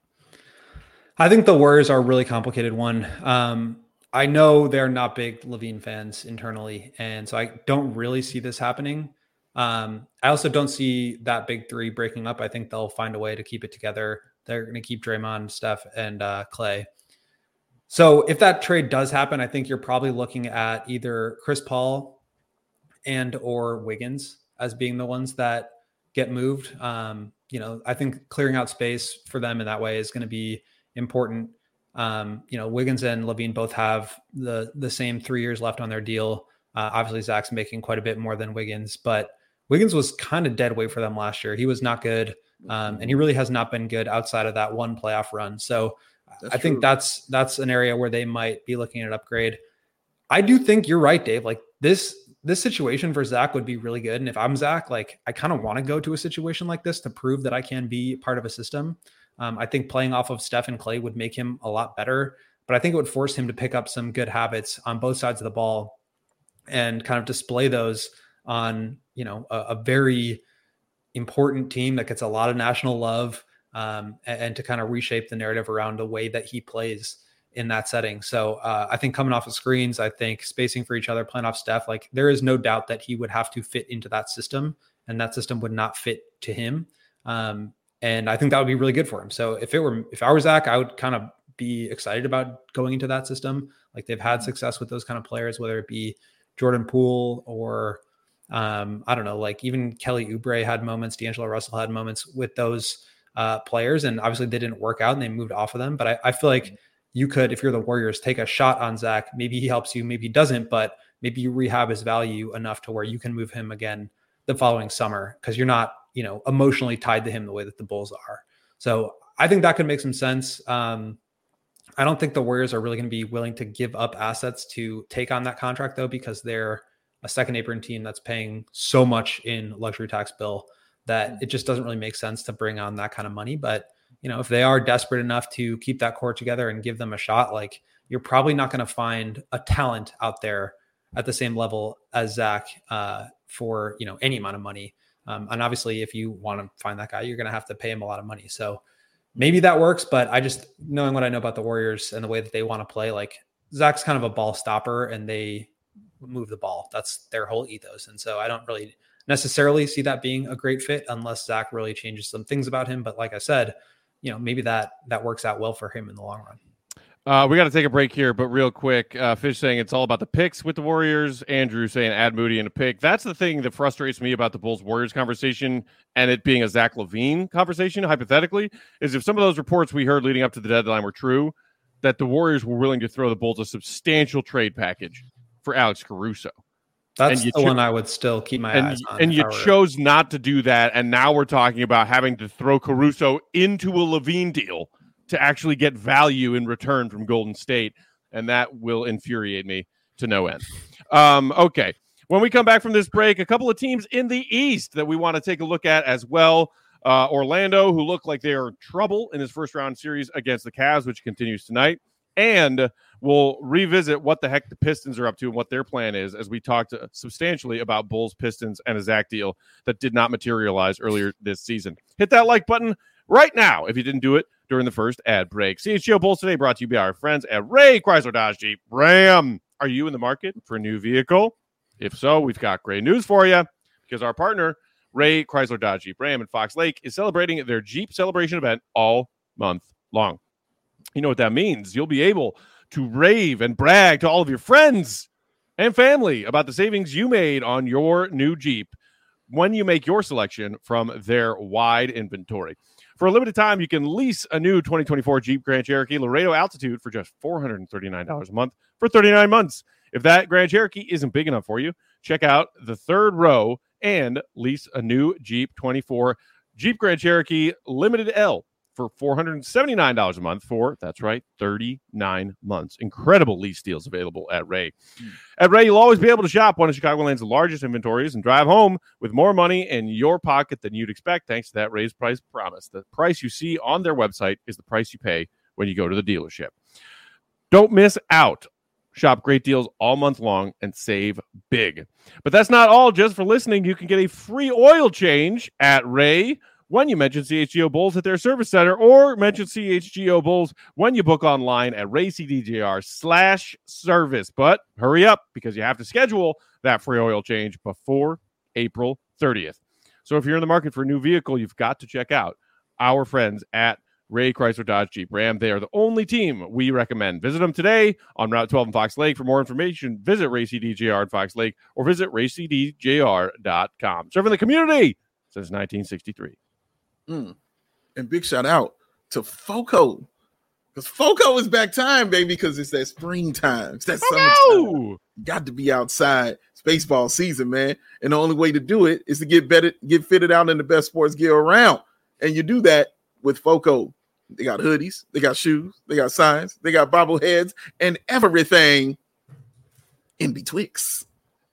I think the Warriors are a really complicated one. Um, I know they're not big LaVine fans internally, and so I don't really see this happening. Um, I also don't see that big three breaking up. I think they'll find a way to keep it together. They're going to keep Draymond, Steph, and uh, Clay. So if that trade does happen, I think you're probably looking at either Chris Paul and or Wiggins as being the ones that get moved. Um, you know, I think clearing out space for them in that way is going to be important. Um, you know, Wiggins and LaVine both have the the same three years left on their deal. Uh, obviously, Zach's making quite a bit more than Wiggins, but Wiggins was kind of dead weight for them last year. He was not good, um, and he really has not been good outside of that one playoff run. So that's I think true. that's that's an area where they might be looking at upgrade. I do think you're right, Dave. Like this this situation for Zach would be really good. And if I'm Zach, like I kind of want to go to a situation like this to prove that I can be part of a system. Um, I think playing off of Steph and Clay would make him a lot better, but I think it would force him to pick up some good habits on both sides of the ball and kind of display those on, you know, a, a very important team that gets a lot of national love, um, and, and to kind of reshape the narrative around the way that he plays in that setting. So uh, I think coming off of screens, I think spacing for each other, playing off Steph, like there is no doubt that he would have to fit into that system, and that system would not fit to him. Um, and I think that would be really good for him. So if it were, if I were Zach, I would kind of be excited about going into that system. Like they've had success with those kind of players, whether it be Jordan Poole or um, I don't know, like even Kelly Oubre had moments, D'Angelo Russell had moments with those uh, players, and obviously they didn't work out and they moved off of them. But I, I feel like you could, if you're the Warriors, take a shot on Zach. Maybe he helps you, maybe he doesn't, but maybe you rehab his value enough to where you can move him again the following summer because you're not, you know, emotionally tied to him the way that the Bulls are. So I think that could make some sense. Um, I don't think the Warriors are really going to be willing to give up assets to take on that contract, though, because they're a second apron team that's paying so much in luxury tax bill that it just doesn't really make sense to bring on that kind of money. But, you know, if they are desperate enough to keep that core together and give them a shot, like you're probably not going to find a talent out there at the same level as Zach uh, for, you know, any amount of money. Um, and obviously, if you want to find that guy, you're going to have to pay him a lot of money. So maybe that works, but I just, knowing what I know about the Warriors and the way that they want to play, like Zach's kind of a ball stopper and they move the ball. That's their whole ethos. And so I don't really necessarily see that being a great fit unless Zach really changes some things about him. But like I said, you know, maybe that, that works out well for him in the long run. Uh, we got to take a break here, but real quick, uh, Fish saying it's all about the picks with the Warriors. Andrew saying add Moody in a pick. That's the thing that frustrates me about the Bulls-Warriors conversation and it being a Zach LaVine conversation, hypothetically, is if some of those reports we heard leading up to the deadline were true, that the Warriors were willing to throw the Bulls a substantial trade package for Alex Caruso. That's the cho- one I would still keep my and, eyes on. And you chose not to do that, and now we're talking about having to throw Caruso into a LaVine deal to actually get value in return from Golden State, and that will infuriate me to no end. Um, okay, when we come back from this break, a couple of teams in the East that we want to take a look at as well. Uh, Orlando, who look like they are in trouble in his first-round series against the Cavs, which continues tonight, and we'll revisit what the heck the Pistons are up to and what their plan is as we talked substantially about Bulls, Pistons, and a Zach deal that did not materialize earlier this season. Hit that like button right now if you didn't do it during the first ad break. C H G O Bulls Today brought to you by our friends at Ray Chrysler Dodge Jeep Ram. Are you in the market for a new vehicle? If so, we've got great news for you because our partner, Ray Chrysler Dodge Jeep Ram in Fox Lake, is celebrating their Jeep celebration event all month long. You know what that means. You'll be able to rave and brag to all of your friends and family about the savings you made on your new Jeep when you make your selection from their wide inventory. For a limited time, you can lease a new twenty twenty-four Jeep Grand Cherokee Laredo Altitude for just four hundred thirty-nine dollars a month for thirty-nine months. If that Grand Cherokee isn't big enough for you, check out the third row and lease a new Jeep twenty-four Jeep Grand Cherokee Limited L for four hundred seventy-nine dollars a month for, that's right, thirty-nine months. Incredible lease deals available at Ray. Mm. At Ray, you'll always be able to shop one of Chicagoland's largest inventories and drive home with more money in your pocket than you'd expect thanks to that Ray's price promise. The price you see on their website is the price you pay when you go to the dealership. Don't miss out. Shop great deals all month long and save big. But that's not all. Just for listening, you can get a free oil change at Ray when you mention C H G O Bulls at their service center, or mention C H G O Bulls when you book online at raycdjr slash service. But hurry up, because you have to schedule that free oil change before April thirtieth. So if you're in the market for a new vehicle, you've got to check out our friends at Ray Chrysler Dodge Jeep Ram. They are the only team we recommend. Visit them today on Route twelve in Fox Lake. For more information, visit Ray C D J R in Fox Lake or visit ray c d j r dot com. Serving the community since nineteen sixty-three. Mm. And big shout out to FOCO, because FOCO is back time, baby, because it's that springtime. It's that summertime. Got to be outside. It's baseball season, man. And the only way to do it is to get better, get fitted out in the best sports gear around. And you do that with FOCO. They got hoodies, they got shoes, they got signs, they got bobbleheads, and everything in betwixt.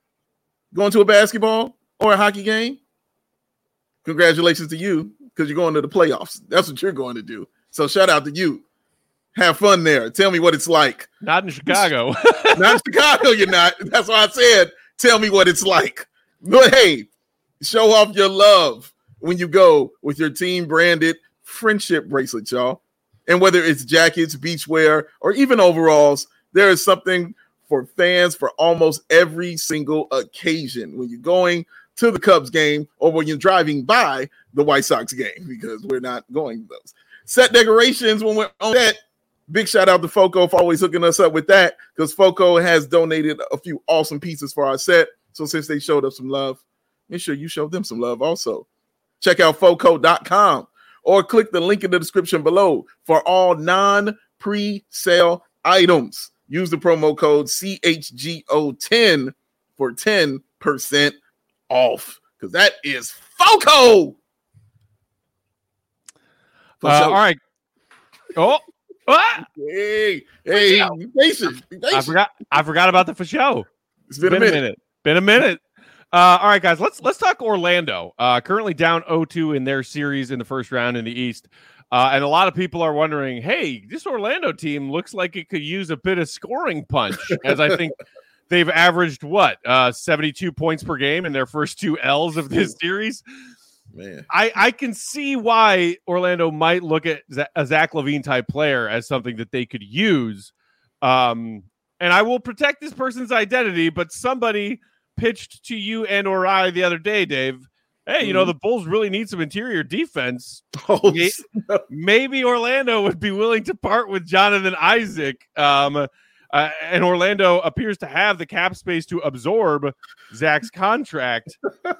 Going to a basketball or a hockey game? Congratulations to you, because you're going to the playoffs. That's what you're going to do. So shout out to you. Have fun there. Tell me what it's like. Not in Chicago. Not in Chicago, you're not. That's why I said, tell me what it's like. But hey, show off your love when you go with your team branded friendship bracelet, y'all. And whether it's jackets, beachwear, or even overalls, there is something for fans for almost every single occasion when you're going to the Cubs game or when you're driving by the White Sox game, because we're not going to those. Set decorations when we're on that. Big shout out to FOCO for always hooking us up with that, because FOCO has donated a few awesome pieces for our set. So since they showed us some love, make sure you show them some love also. Check out foco dot com or click the link in the description below for all non-pre-sale items. Use the promo code C H G O ten for ten percent off, because that is FOCO. Uh, all right. Oh, ah! hey, hey, be patient. Be patient. I forgot. I forgot about the for show. It's been, it's been a, minute. a minute. Been a minute. Uh, all right, guys. Let's let's talk Orlando. Uh, currently down oh two in their series in the first round in the East, uh, and a lot of people are wondering, hey, this Orlando team looks like it could use a bit of scoring punch, as I think they've averaged what uh, seventy-two points per game in their first two L's of this series. Man, I, I can see why Orlando might look at a Zach LaVine type player as something that they could use. Um, and I will protect this person's identity, but somebody pitched to you and or I the other day, Dave. Hey, you know, the Bulls really need some interior defense. Oh, maybe, maybe Orlando would be willing to part with Jonathan Isaac. Um, uh, and Orlando appears to have the cap space to absorb Zach's contract.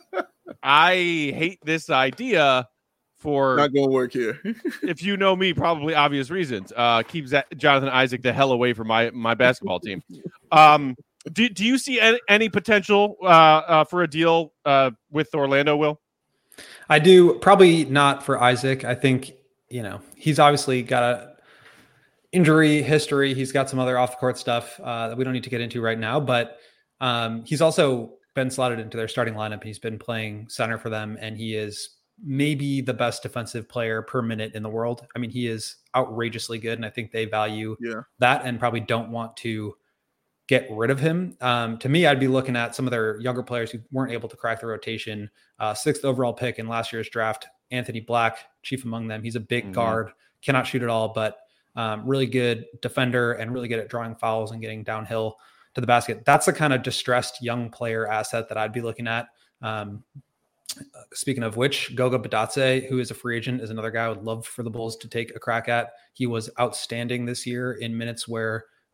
I hate this idea for not going to work here. If you know me, probably obvious reasons. Uh, keep Z- Jonathan Isaac the hell away from my my basketball team. Um, do do you see any, any potential uh, uh, for a deal uh, with Orlando, Will? I do. Probably not for Isaac. I think, you know, he's obviously got a injury history. He's got some other off the court stuff uh, that we don't need to get into right now, but um, he's also been slotted into their starting lineup. He's been playing center for them, and he is maybe the best defensive player per minute in the world. I mean, he is outrageously good, and I think they value yeah. that and probably don't want to get rid of him. Um, to me, I'd be looking at some of their younger players who weren't able to crack the rotation. Uh, sixth overall pick in last year's draft, Anthony Black, chief among them. He's a big mm-hmm. guard, cannot shoot at all, but um, really good defender and really good at drawing fouls and getting downhill to the basket. That's the kind of distressed young player asset that I'd be looking at. Um, speaking of which, Goga Badatse, who is a free agent, is another guy I would love for the Bulls to take a crack at. He was outstanding this year in minutes where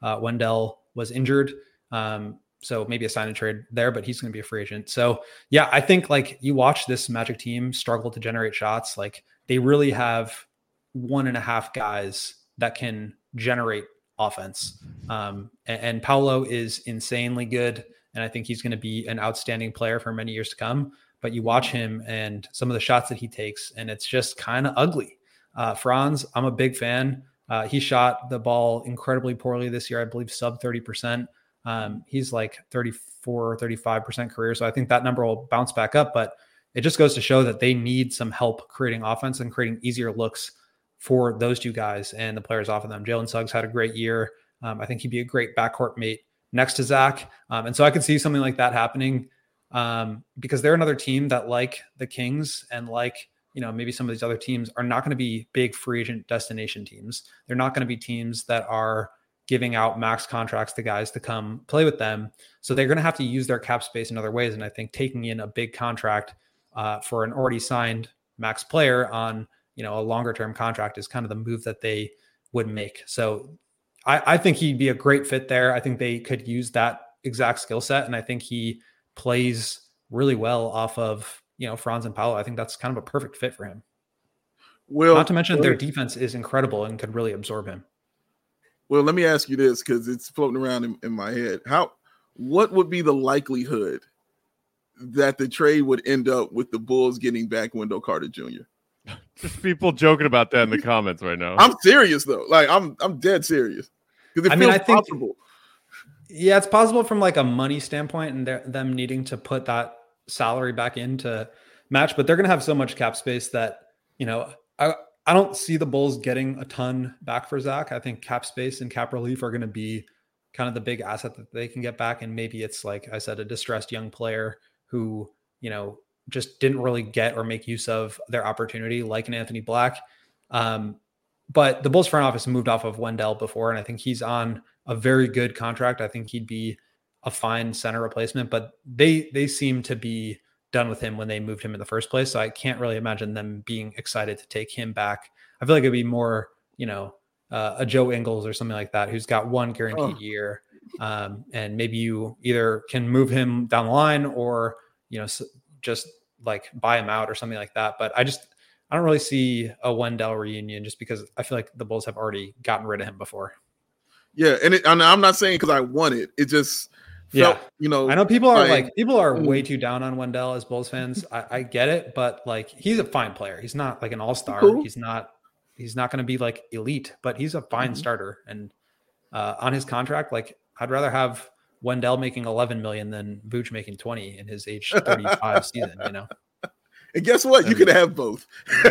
Uh, Wendell was injured. Um, so maybe a sign and trade there, but he's going to be a free agent. So yeah, I think like you watch this Magic team struggle to generate shots. Like they really have one and a half guys that can generate offense. Um, and, and Paolo is insanely good. And I think he's going to be an outstanding player for many years to come. But you watch him and some of the shots that he takes, and it's just kind of ugly. Uh, Franz, I'm a big fan. Uh, he shot the ball incredibly poorly this year. I believe sub thirty percent. Um, he's like thirty-four, thirty-five percent career. So I think that number will bounce back up, but it just goes to show that they need some help creating offense and creating easier looks for those two guys and the players off of them. Jalen Suggs had a great year. Um, I think he'd be a great backcourt mate next to Zach. Um, and so I could see something like that happening um, because they're another team that, like the Kings and like, you know, maybe some of these other teams, are not going to be big free agent destination teams. They're not going to be teams that are giving out max contracts to guys to come play with them. So they're going to have to use their cap space in other ways. And I think taking in a big contract uh, for an already signed max player on, you know, a longer term contract is kind of the move that they would make. So I, I think he'd be a great fit there. I think they could use that exact skill set. And I think he plays really well off of, you know, Franz and Paolo. I think that's kind of a perfect fit for him. Well, not to mention their defense is incredible and could really absorb him. Well, let me ask you this, because it's floating around in, in my head. How, what would be the likelihood that the trade would end up with the Bulls getting back Wendell Carter Junior? Just people joking about that in the comments right now. I'm serious though. Like I'm, I'm dead serious. Because it I feels mean, I think, possible. Yeah, it's possible from like a money standpoint and them needing to put that salary back in to match, but they're going to have so much cap space that, you know, I. I don't see the Bulls getting a ton back for Zach. I think cap space and cap relief are going to be kind of the big asset that they can get back. And maybe it's, like I said, a distressed young player who, you know, just didn't really get or make use of their opportunity, like an Anthony Black. Um, but the Bulls front office moved off of Wendell before, and I think he's on a very good contract. I think he'd be a fine center replacement, but they, they seem to be done with him when they moved him in the first place. So I can't really imagine them being excited to take him back. I feel like it'd be more, you know, uh, a Joe Ingles or something like that, who's got one guaranteed oh. year. Um, and maybe you either can move him down the line or, you know, just like buy him out or something like that. But I just, I don't really see a Wendell reunion just because I feel like the Bulls have already gotten rid of him before. Yeah. And it, I'm not saying because I want it. It just, Felt, yeah, you know, I know people are like, like people are way too down on Wendell as Bulls fans. I, I get it, but like he's a fine player. He's not like an all-star. Cool. He's not he's not going to be like elite, but he's a fine mm-hmm. starter. And uh, on his contract, like I'd rather have Wendell making eleven million than Vooch making twenty in his age thirty-five season. You know. And guess what? You could have both.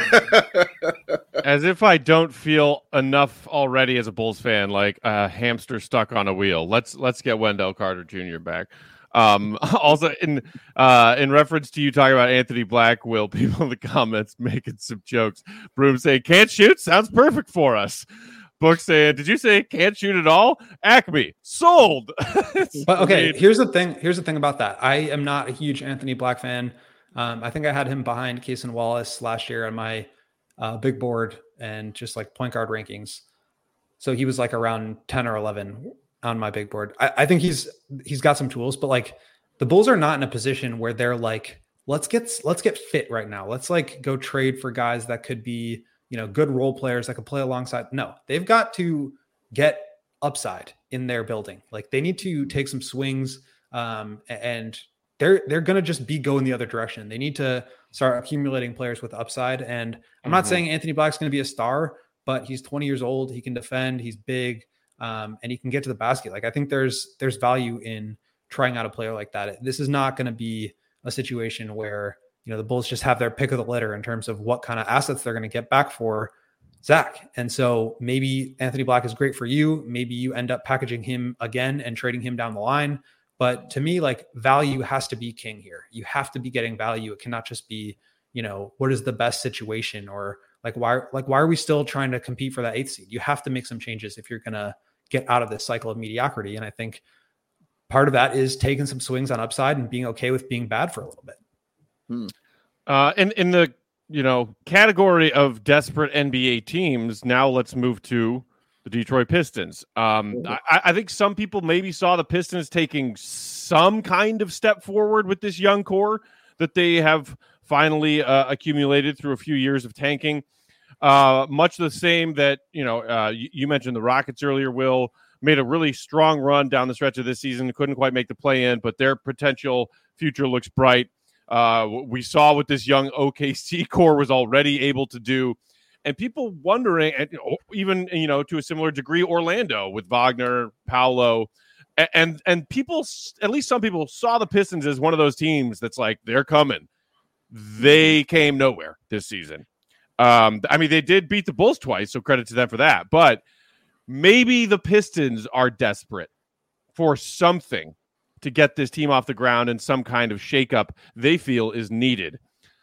As if I don't feel enough already as a Bulls fan, like a hamster stuck on a wheel. Let's let's get Wendell Carter Junior back. Um, also, in uh, in reference to you talking about Anthony Black, Will, people in the comments making some jokes. Broom saying, can't shoot? Sounds perfect for us. Book saying, did you say can't shoot at all? Acme, sold. But okay, here's the thing. Here's the thing about that. I am not a huge Anthony Black fan. Um, I think I had him behind Cason Wallace last year on my uh, big board and just like point guard rankings. So he was like around ten or eleven on my big board. I, I think he's he's got some tools, but like the Bulls are not in a position where they're like, let's get let's get fit right now. Let's like go trade for guys that could be, you know, good role players that could play alongside. No, they've got to get upside in their building. Like they need to take some swings um, and they're they're going to just be going the other direction. They need to start accumulating players with upside. And I'm mm-hmm. not saying Anthony Black's going to be a star, but he's twenty years old. He can defend. He's big, um, and he can get to the basket. Like I think there's there's value in trying out a player like that. This is not going to be a situation where, you know, the Bulls just have their pick of the litter in terms of what kind of assets they're going to get back for Zach. And so maybe Anthony Black is great for you. Maybe you end up packaging him again and trading him down the line. But to me, like value has to be king here. You have to be getting value. It cannot just be, you know, what is the best situation or like why, like why are we still trying to compete for that eighth seed? You have to make some changes if you're going to get out of this cycle of mediocrity. And I think part of that is taking some swings on upside and being okay with being bad for a little bit. Hmm. Uh, in in the you know category of desperate N B A teams, now let's move to the Detroit Pistons. Um, I, I think some people maybe saw the Pistons taking some kind of step forward with this young core that they have finally uh, accumulated through a few years of tanking. Uh, much the same that, you know, uh, you, you mentioned the Rockets earlier, Will, made a really strong run down the stretch of this season. Couldn't quite make the play in, but their potential future looks bright. Uh, we saw what this young O K C core was already able to do. And people wondering, and even, you know, to a similar degree, Orlando with Wagner, Paolo, and, and and people, at least some people, saw the Pistons as one of those teams that's like, they're coming. They came nowhere this season. Um, I mean, they did beat the Bulls twice, so credit to them for that. But maybe the Pistons are desperate for something to get this team off the ground and some kind of shakeup they feel is needed.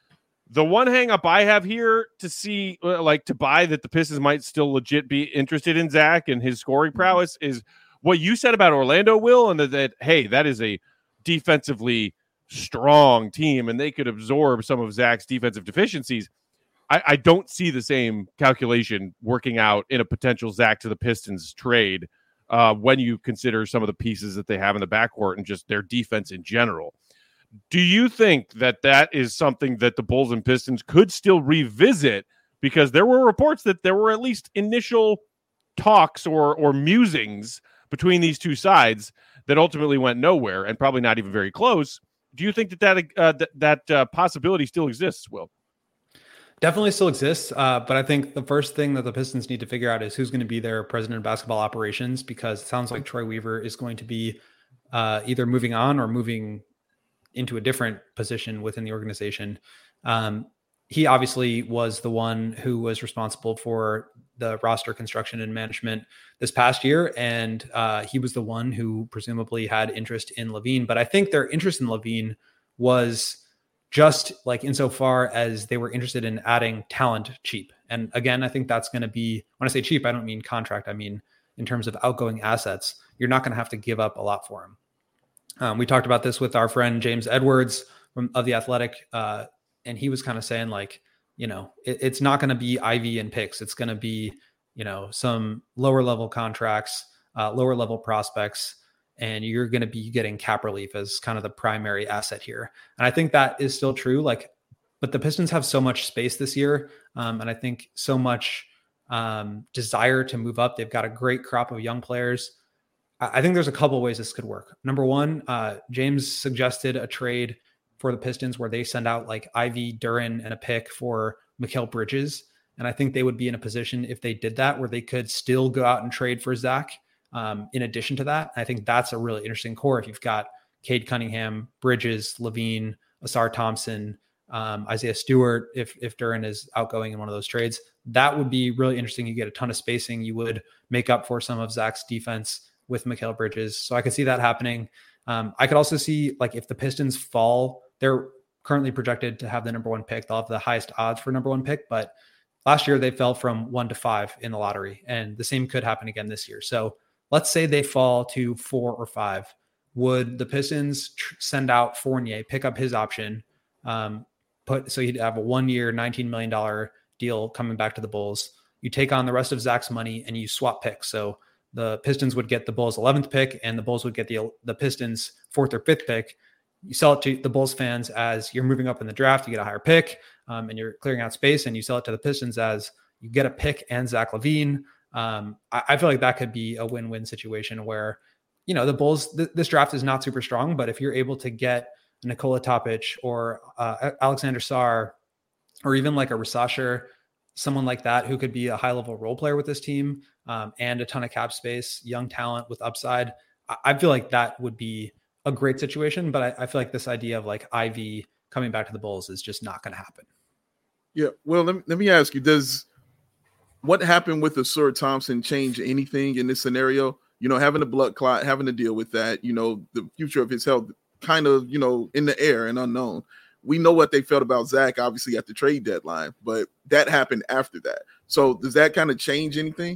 The one hang up I have here to see, like to buy that the Pistons might still legit be interested in Zach and his scoring prowess is what you said about Orlando, Will, and that, that hey, that is a defensively strong team and they could absorb some of Zach's defensive deficiencies. I, I don't see the same calculation working out in a potential Zach to the Pistons trade uh, when you consider some of the pieces that they have in the backcourt and just their defense in general. Do you think that that is something that the Bulls and Pistons could still revisit? Because there were reports that there were at least initial talks or or musings between these two sides that ultimately went nowhere and probably not even very close. Do you think that that, uh, that, that uh, possibility still exists, Will? Definitely still exists, uh, but I think the first thing that the Pistons need to figure out is who's going to be their president of basketball operations, because it sounds like Troy Weaver is going to be uh, either moving on or moving into a different position within the organization. Um, he obviously was the one who was responsible for the roster construction and management this past year, and uh, he was the one who presumably had interest in LaVine. But I think their interest in LaVine was just like insofar as they were interested in adding talent cheap. And again, I think that's going to be, when I say cheap, I don't mean contract. I mean, in terms of outgoing assets, you're not going to have to give up a lot for him. Um, we talked about this with our friend James Edwards from of The Athletic. Uh, and he was kind of saying like, you know, it, it's not going to be Ivy and picks. It's going to be, you know, some lower level contracts, uh, lower level prospects, and you're going to be getting cap relief as kind of the primary asset here. And I think that is still true. Like, but the Pistons have so much space this year. Um, and I think so much um, desire to move up. They've got a great crop of young players. I, I think there's a couple of ways this could work. Number one, uh, James suggested a trade for the Pistons where they send out like Ivy, Duren, and a pick for Mikal Bridges. And I think they would be in a position if they did that where they could still go out and trade for Zach. Um, in addition to that, I think that's a really interesting core. If you've got Cade Cunningham, Bridges, LaVine, Asar Thompson, um, Isaiah Stewart, if if Duren is outgoing in one of those trades, that would be really interesting. You get a ton of spacing. You would make up for some of Zach's defense with Mikal Bridges. So I could see that happening. Um, I could also see like if the Pistons fall, they're currently projected to have the number one pick. They'll have the highest odds for number one pick, but last year they fell from one to five in the lottery, and the same could happen again this year. So let's say they fall to four or five. Would the Pistons tr- send out Fournier, pick up his option, um, put so he'd have a one-year, nineteen million dollars deal coming back to the Bulls. You take on the rest of Zach's money and you swap picks. So the Pistons would get the Bulls' eleventh pick and the Bulls would get the the Pistons' fourth or fifth pick. You sell it to the Bulls fans as you're moving up in the draft, you get a higher pick, um, and you're clearing out space, and you sell it to the Pistons as you get a pick and Zach LaVine. Um, I, I feel like that could be a win-win situation where, you know, the Bulls, th- this draft is not super strong, but if you're able to get Nikola Topic or uh, Alexander Sarr, or even like a Rasasher, someone like that who could be a high-level role player with this team, um, and a ton of cap space, young talent with upside, I, I feel like that would be a great situation. But I, I feel like this idea of like Ivy coming back to the Bulls is just not going to happen. Yeah. Well, let me, let me ask you, does what happened with Asar Thompson change anything in this scenario? You know, having a blood clot, having to deal with that, you know, the future of his health kind of, you know, in the air and unknown. We know what they felt about Zach, obviously, at the trade deadline, but that happened after that. So does that kind of change anything?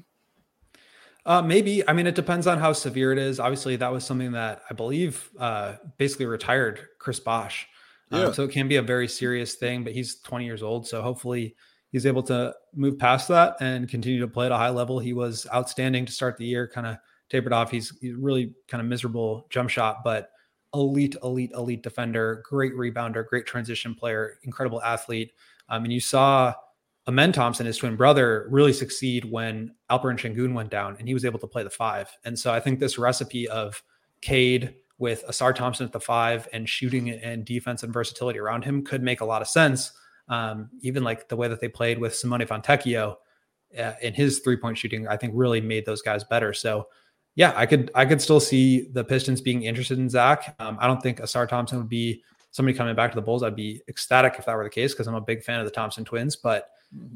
Uh, maybe. I mean, it depends on how severe it is. Obviously, that was something that I believe uh, basically retired Chris Bosh. Um, Yeah. So it can be a very serious thing, but he's twenty years old. So hopefully he's able to move past that and continue to play at a high level. He was outstanding to start the year, kind of tapered off. He's, he's really kind of miserable jump shot, but elite, elite, elite defender, great rebounder, great transition player, incredible athlete. Um, and you saw Amen Thompson, his twin brother, really succeed when Alperen Sengun went down and he was able to play the five. And so I think this recipe of Cade with Asar Thompson at the five and shooting and defense and versatility around him could make a lot of sense. Um, even like the way that they played with Simone Fontecchio uh, in his three-point shooting, I think really made those guys better. So yeah, I could, I could still see the Pistons being interested in Zach. Um, I don't think Asar Thompson would be somebody coming back to the Bulls. I'd be ecstatic if that were the case, because I'm a big fan of the Thompson twins, but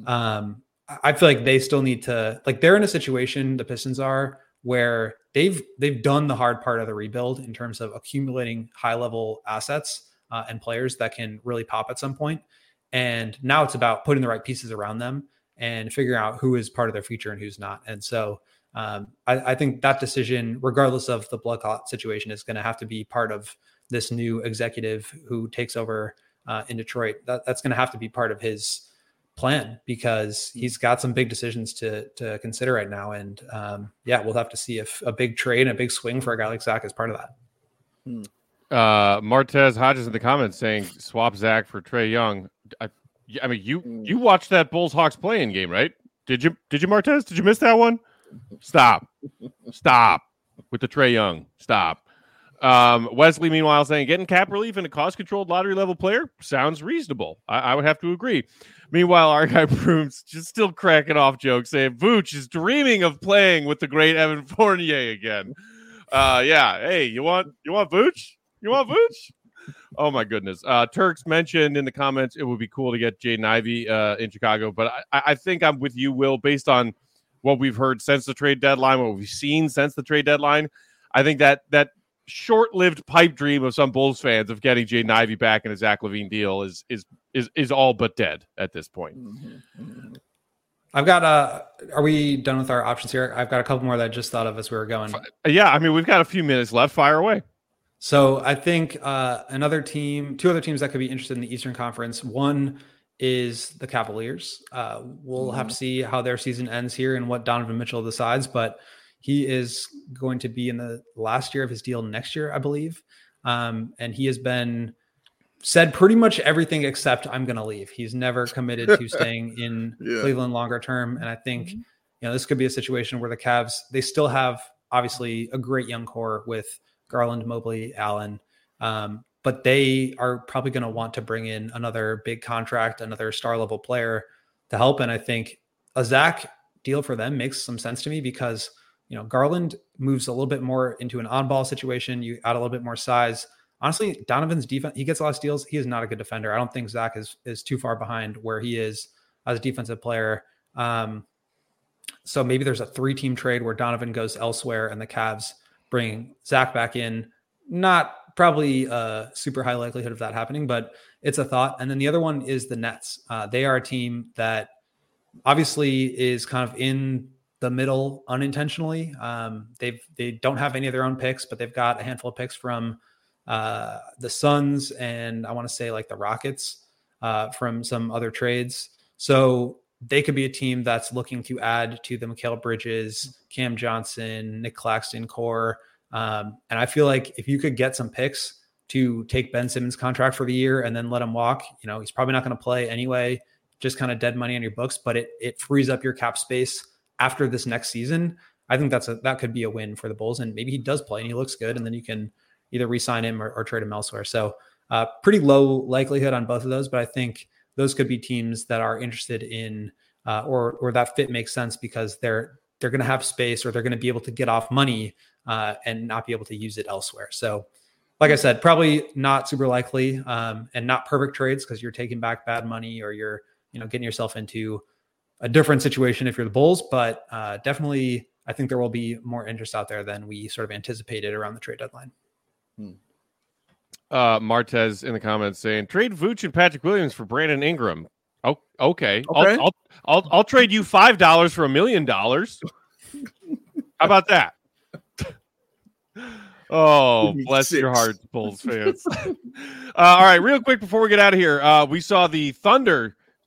um, I feel like they still need to, like, they're in a situation, the Pistons are, where they've, they've done the hard part of the rebuild in terms of accumulating high level assets uh, and players that can really pop at some point. And now it's about putting the right pieces around them and figuring out who is part of their future and who's not. And so um, I, I think that decision, regardless of the blood clot situation, is going to have to be part of this new executive who takes over uh, in Detroit. That, that's going to have to be part of his plan, because he's got some big decisions to to consider right now. And um, yeah, we'll have to see if a big trade and a big swing for a guy like Zach is part of that. Hmm. Uh, Martez Hodges in the comments saying swap Zach for Trae Young. I, I mean, you you watched that Bulls Hawks playing game, right? Did you? Did you, Martez? Did you miss that one? Stop, stop with the Trae Young. Stop. Um, Wesley, meanwhile, saying getting cap relief in a cost-controlled lottery level player sounds reasonable. I, I would have to agree. Meanwhile, our guy Brooms just still cracking off jokes, saying Vooch is dreaming of playing with the great Evan Fournier again. Uh, yeah. Hey, you want you want Vooch? You want Vooch? Oh my goodness. Uh, Turks mentioned in the comments it would be cool to get Jaden Ivey uh, in Chicago, but I, I think I'm with you, Will, based on what we've heard since the trade deadline, what we've seen since the trade deadline. I think that that. short-lived pipe dream of some Bulls fans of getting Jaden Ivey back in a Zach LaVine deal is is is is all but dead at this point. Mm-hmm. I've got uh are we done with our options here? I've got a couple more that I just thought of as we were going. Yeah, I mean, we've got a few minutes left. Fire away. So I think uh, another team, two other teams that could be interested in the Eastern Conference. One is the Cavaliers. Uh, we'll mm-hmm. have to see how their season ends here and what Donovan Mitchell decides, but he is going to be in the last year of his deal next year, I believe. Um, and he has been said pretty much everything except I'm going to leave. He's never committed to staying in yeah. Cleveland longer term. And I think, mm-hmm. you know, this could be a situation where the Cavs, they still have obviously a great young core with Garland, Mobley, Allen. Um, but they are probably going to want to bring in another big contract, another star level player to help. And I think a Zach deal for them makes some sense to me, because you know, Garland moves a little bit more into an on-ball situation. You add a little bit more size. Honestly, Donovan's defense, he gets a lot of steals. He is not a good defender. I don't think Zach is is too far behind where he is as a defensive player. Um, so maybe there's a three-team trade where Donovan goes elsewhere and the Cavs bring Zach back in. Not probably a super high likelihood of that happening, but it's a thought. And then the other one is the Nets. Uh, they are a team that obviously is kind of in the middle unintentionally. Um, they've, they don't have any of their own picks, but they've got a handful of picks from uh, the Suns and I want to say like the Rockets uh, from some other trades. So they could be a team that's looking to add to the Mikal Bridges, Cam Johnson, Nick Claxton core. Um, and I feel like if you could get some picks to take Ben Simmons' contract for the year and then let him walk, you know, he's probably not going to play anyway, just kind of dead money on your books, but it it frees up your cap space after this next season. I think that's a, that could be a win for the Bulls, and maybe he does play and he looks good, and then you can either re-sign him or, or trade him elsewhere. So uh, pretty low likelihood on both of those, but I think those could be teams that are interested in, uh, or or that fit makes sense because they're they're going to have space, or they're going to be able to get off money uh, and not be able to use it elsewhere. So like I said, probably not super likely um, and not perfect trades, because you're taking back bad money, or you're you know getting yourself into a different situation if you're the Bulls, but uh, definitely I think there will be more interest out there than we sort of anticipated around the trade deadline. Hmm. Uh, Martez in the comments saying trade Vooch and Patrick Williams for Brandon Ingram. Oh, okay. okay. I'll, I'll, I'll, I'll trade you five dollars for a million dollars. How about that? Oh, bless Six. your hearts, Bulls fans. uh, all right, real quick before we get out of here, uh, we saw the Thunder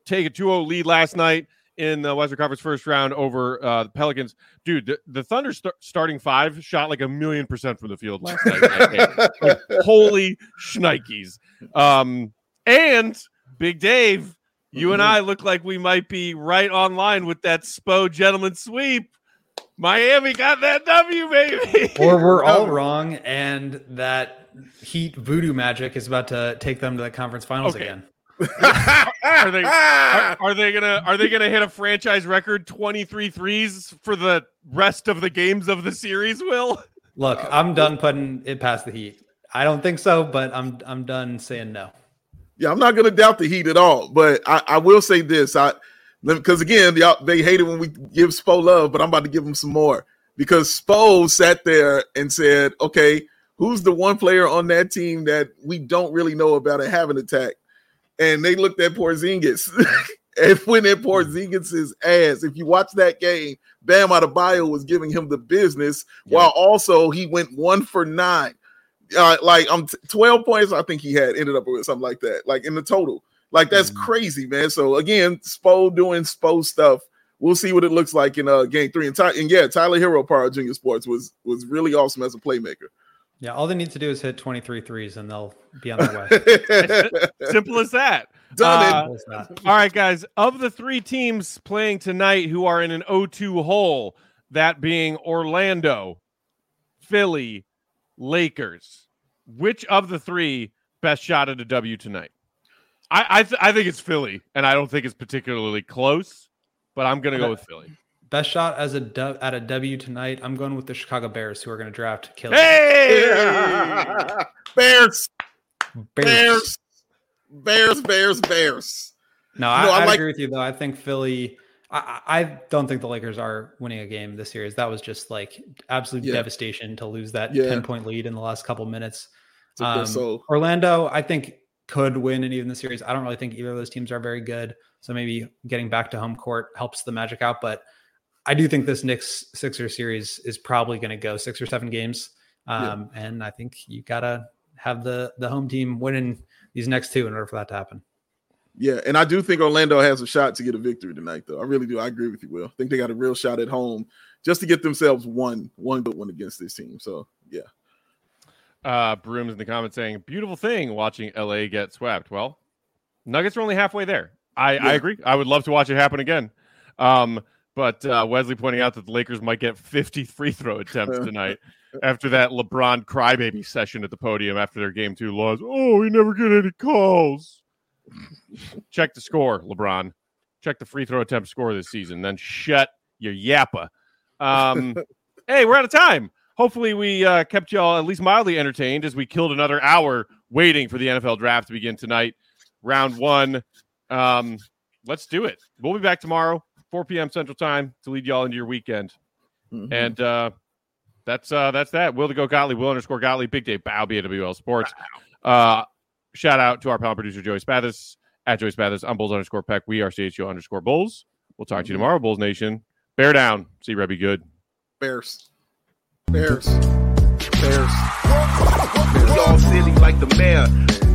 take a two oh lead last night in the Western Conference first round over uh, the Pelicans. Dude, the, the Thunder st- starting five shot like a million percent from the field last night. Like, holy shnikes. Um, and Big Dave, you mm-hmm. and I look like we might be right online with that Spo gentleman sweep. Miami got that W, baby. Or we're all wrong, and that Heat voodoo magic is about to take them to the conference finals okay. again. are they are, are they gonna are they gonna hit a franchise record twenty-three threes for the rest of the games of the series? Will look, I'm done putting it past the Heat. I don't think so, but I'm I'm done saying no. Yeah, I'm not gonna doubt the Heat at all, but I, I will say this: I because again they hate it when we give Spo love, but I'm about to give them some more because Spo sat there and said, "Okay, who's the one player on that team that we don't really know about and have an attack?" And they looked at Porzingis and went at Porzingis' ass. If you watch that game, Bam Adebayo was giving him the business, yeah. while also he went one for nine. Uh, like um, twelve points, I think he had ended up with something like that, like in the total. Like that's mm-hmm. crazy, man. So again, Spo doing Spo stuff. We'll see what it looks like in uh, game three. And, Ty- and yeah, Tyler Hero, Power Junior Sports, was was really awesome as a playmaker. Yeah, all they need to do is hit twenty-three threes and they'll be on their way. Simple as that. Done uh, it. All right, guys. Of the three teams playing tonight who are in an oh two hole, that being Orlando, Philly, Lakers, which of the three best shot at a W tonight? I I, th- I think it's Philly, and I don't think it's particularly close, but I'm going to go with Philly. Best shot as a du- at a W tonight, I'm going with the Chicago Bears, who are going to draft Kill. Hey! Bears! Bears! Bears, Bears, Bears. No, I, no, I, I like- agree with you, though. I think Philly I, – I don't think the Lakers are winning a game this series. That was just, like, absolute yeah. devastation to lose that yeah. ten-point lead in the last couple minutes. Um, Orlando, I think, could win and even the series. I don't really think either of those teams are very good, so maybe getting back to home court helps the Magic out, but – I do think this Knicks Sixers series is probably going to go six or seven games. Um, yeah. And I think you got to have the, the home team winning these next two in order for that to happen. Yeah. And I do think Orlando has a shot to get a victory tonight, though. I really do. I agree with you, Will. I think they got a real shot at home just to get themselves one, one good one against this team. So, yeah. Uh, Brooms in the comments saying, beautiful thing watching L A get swept. Well, Nuggets are only halfway there. I, yeah. I agree. I would love to watch it happen again. Um, But uh, Wesley pointing out that the Lakers might get fifty free throw attempts tonight after that LeBron crybaby session at the podium after their game two loss. Oh, we never get any calls. Check the score, LeBron. Check the free throw attempt score this season. Then shut your yappa. Um, hey, we're out of time. Hopefully we uh, kept y'all at least mildly entertained as we killed another hour waiting for the N F L draft to begin tonight. Round one. Um, let's do it. We'll be back tomorrow. four p.m. Central Time to lead y'all into your weekend. Mm-hmm. And uh, that's uh, that's that. Will to go Gottlieb, Will underscore Gottlieb, Big Dave Bow, B A W L Sports. Uh, shout out to our panel producer, Joey Spathis, at Joey Spathis. I'm Bulls underscore Peck. We are C H O underscore Bulls. We'll talk mm-hmm. to you tomorrow, Bulls Nation. Bear down. See Rebby good. Bears. Bears. Bears. Y'all city like the mayor.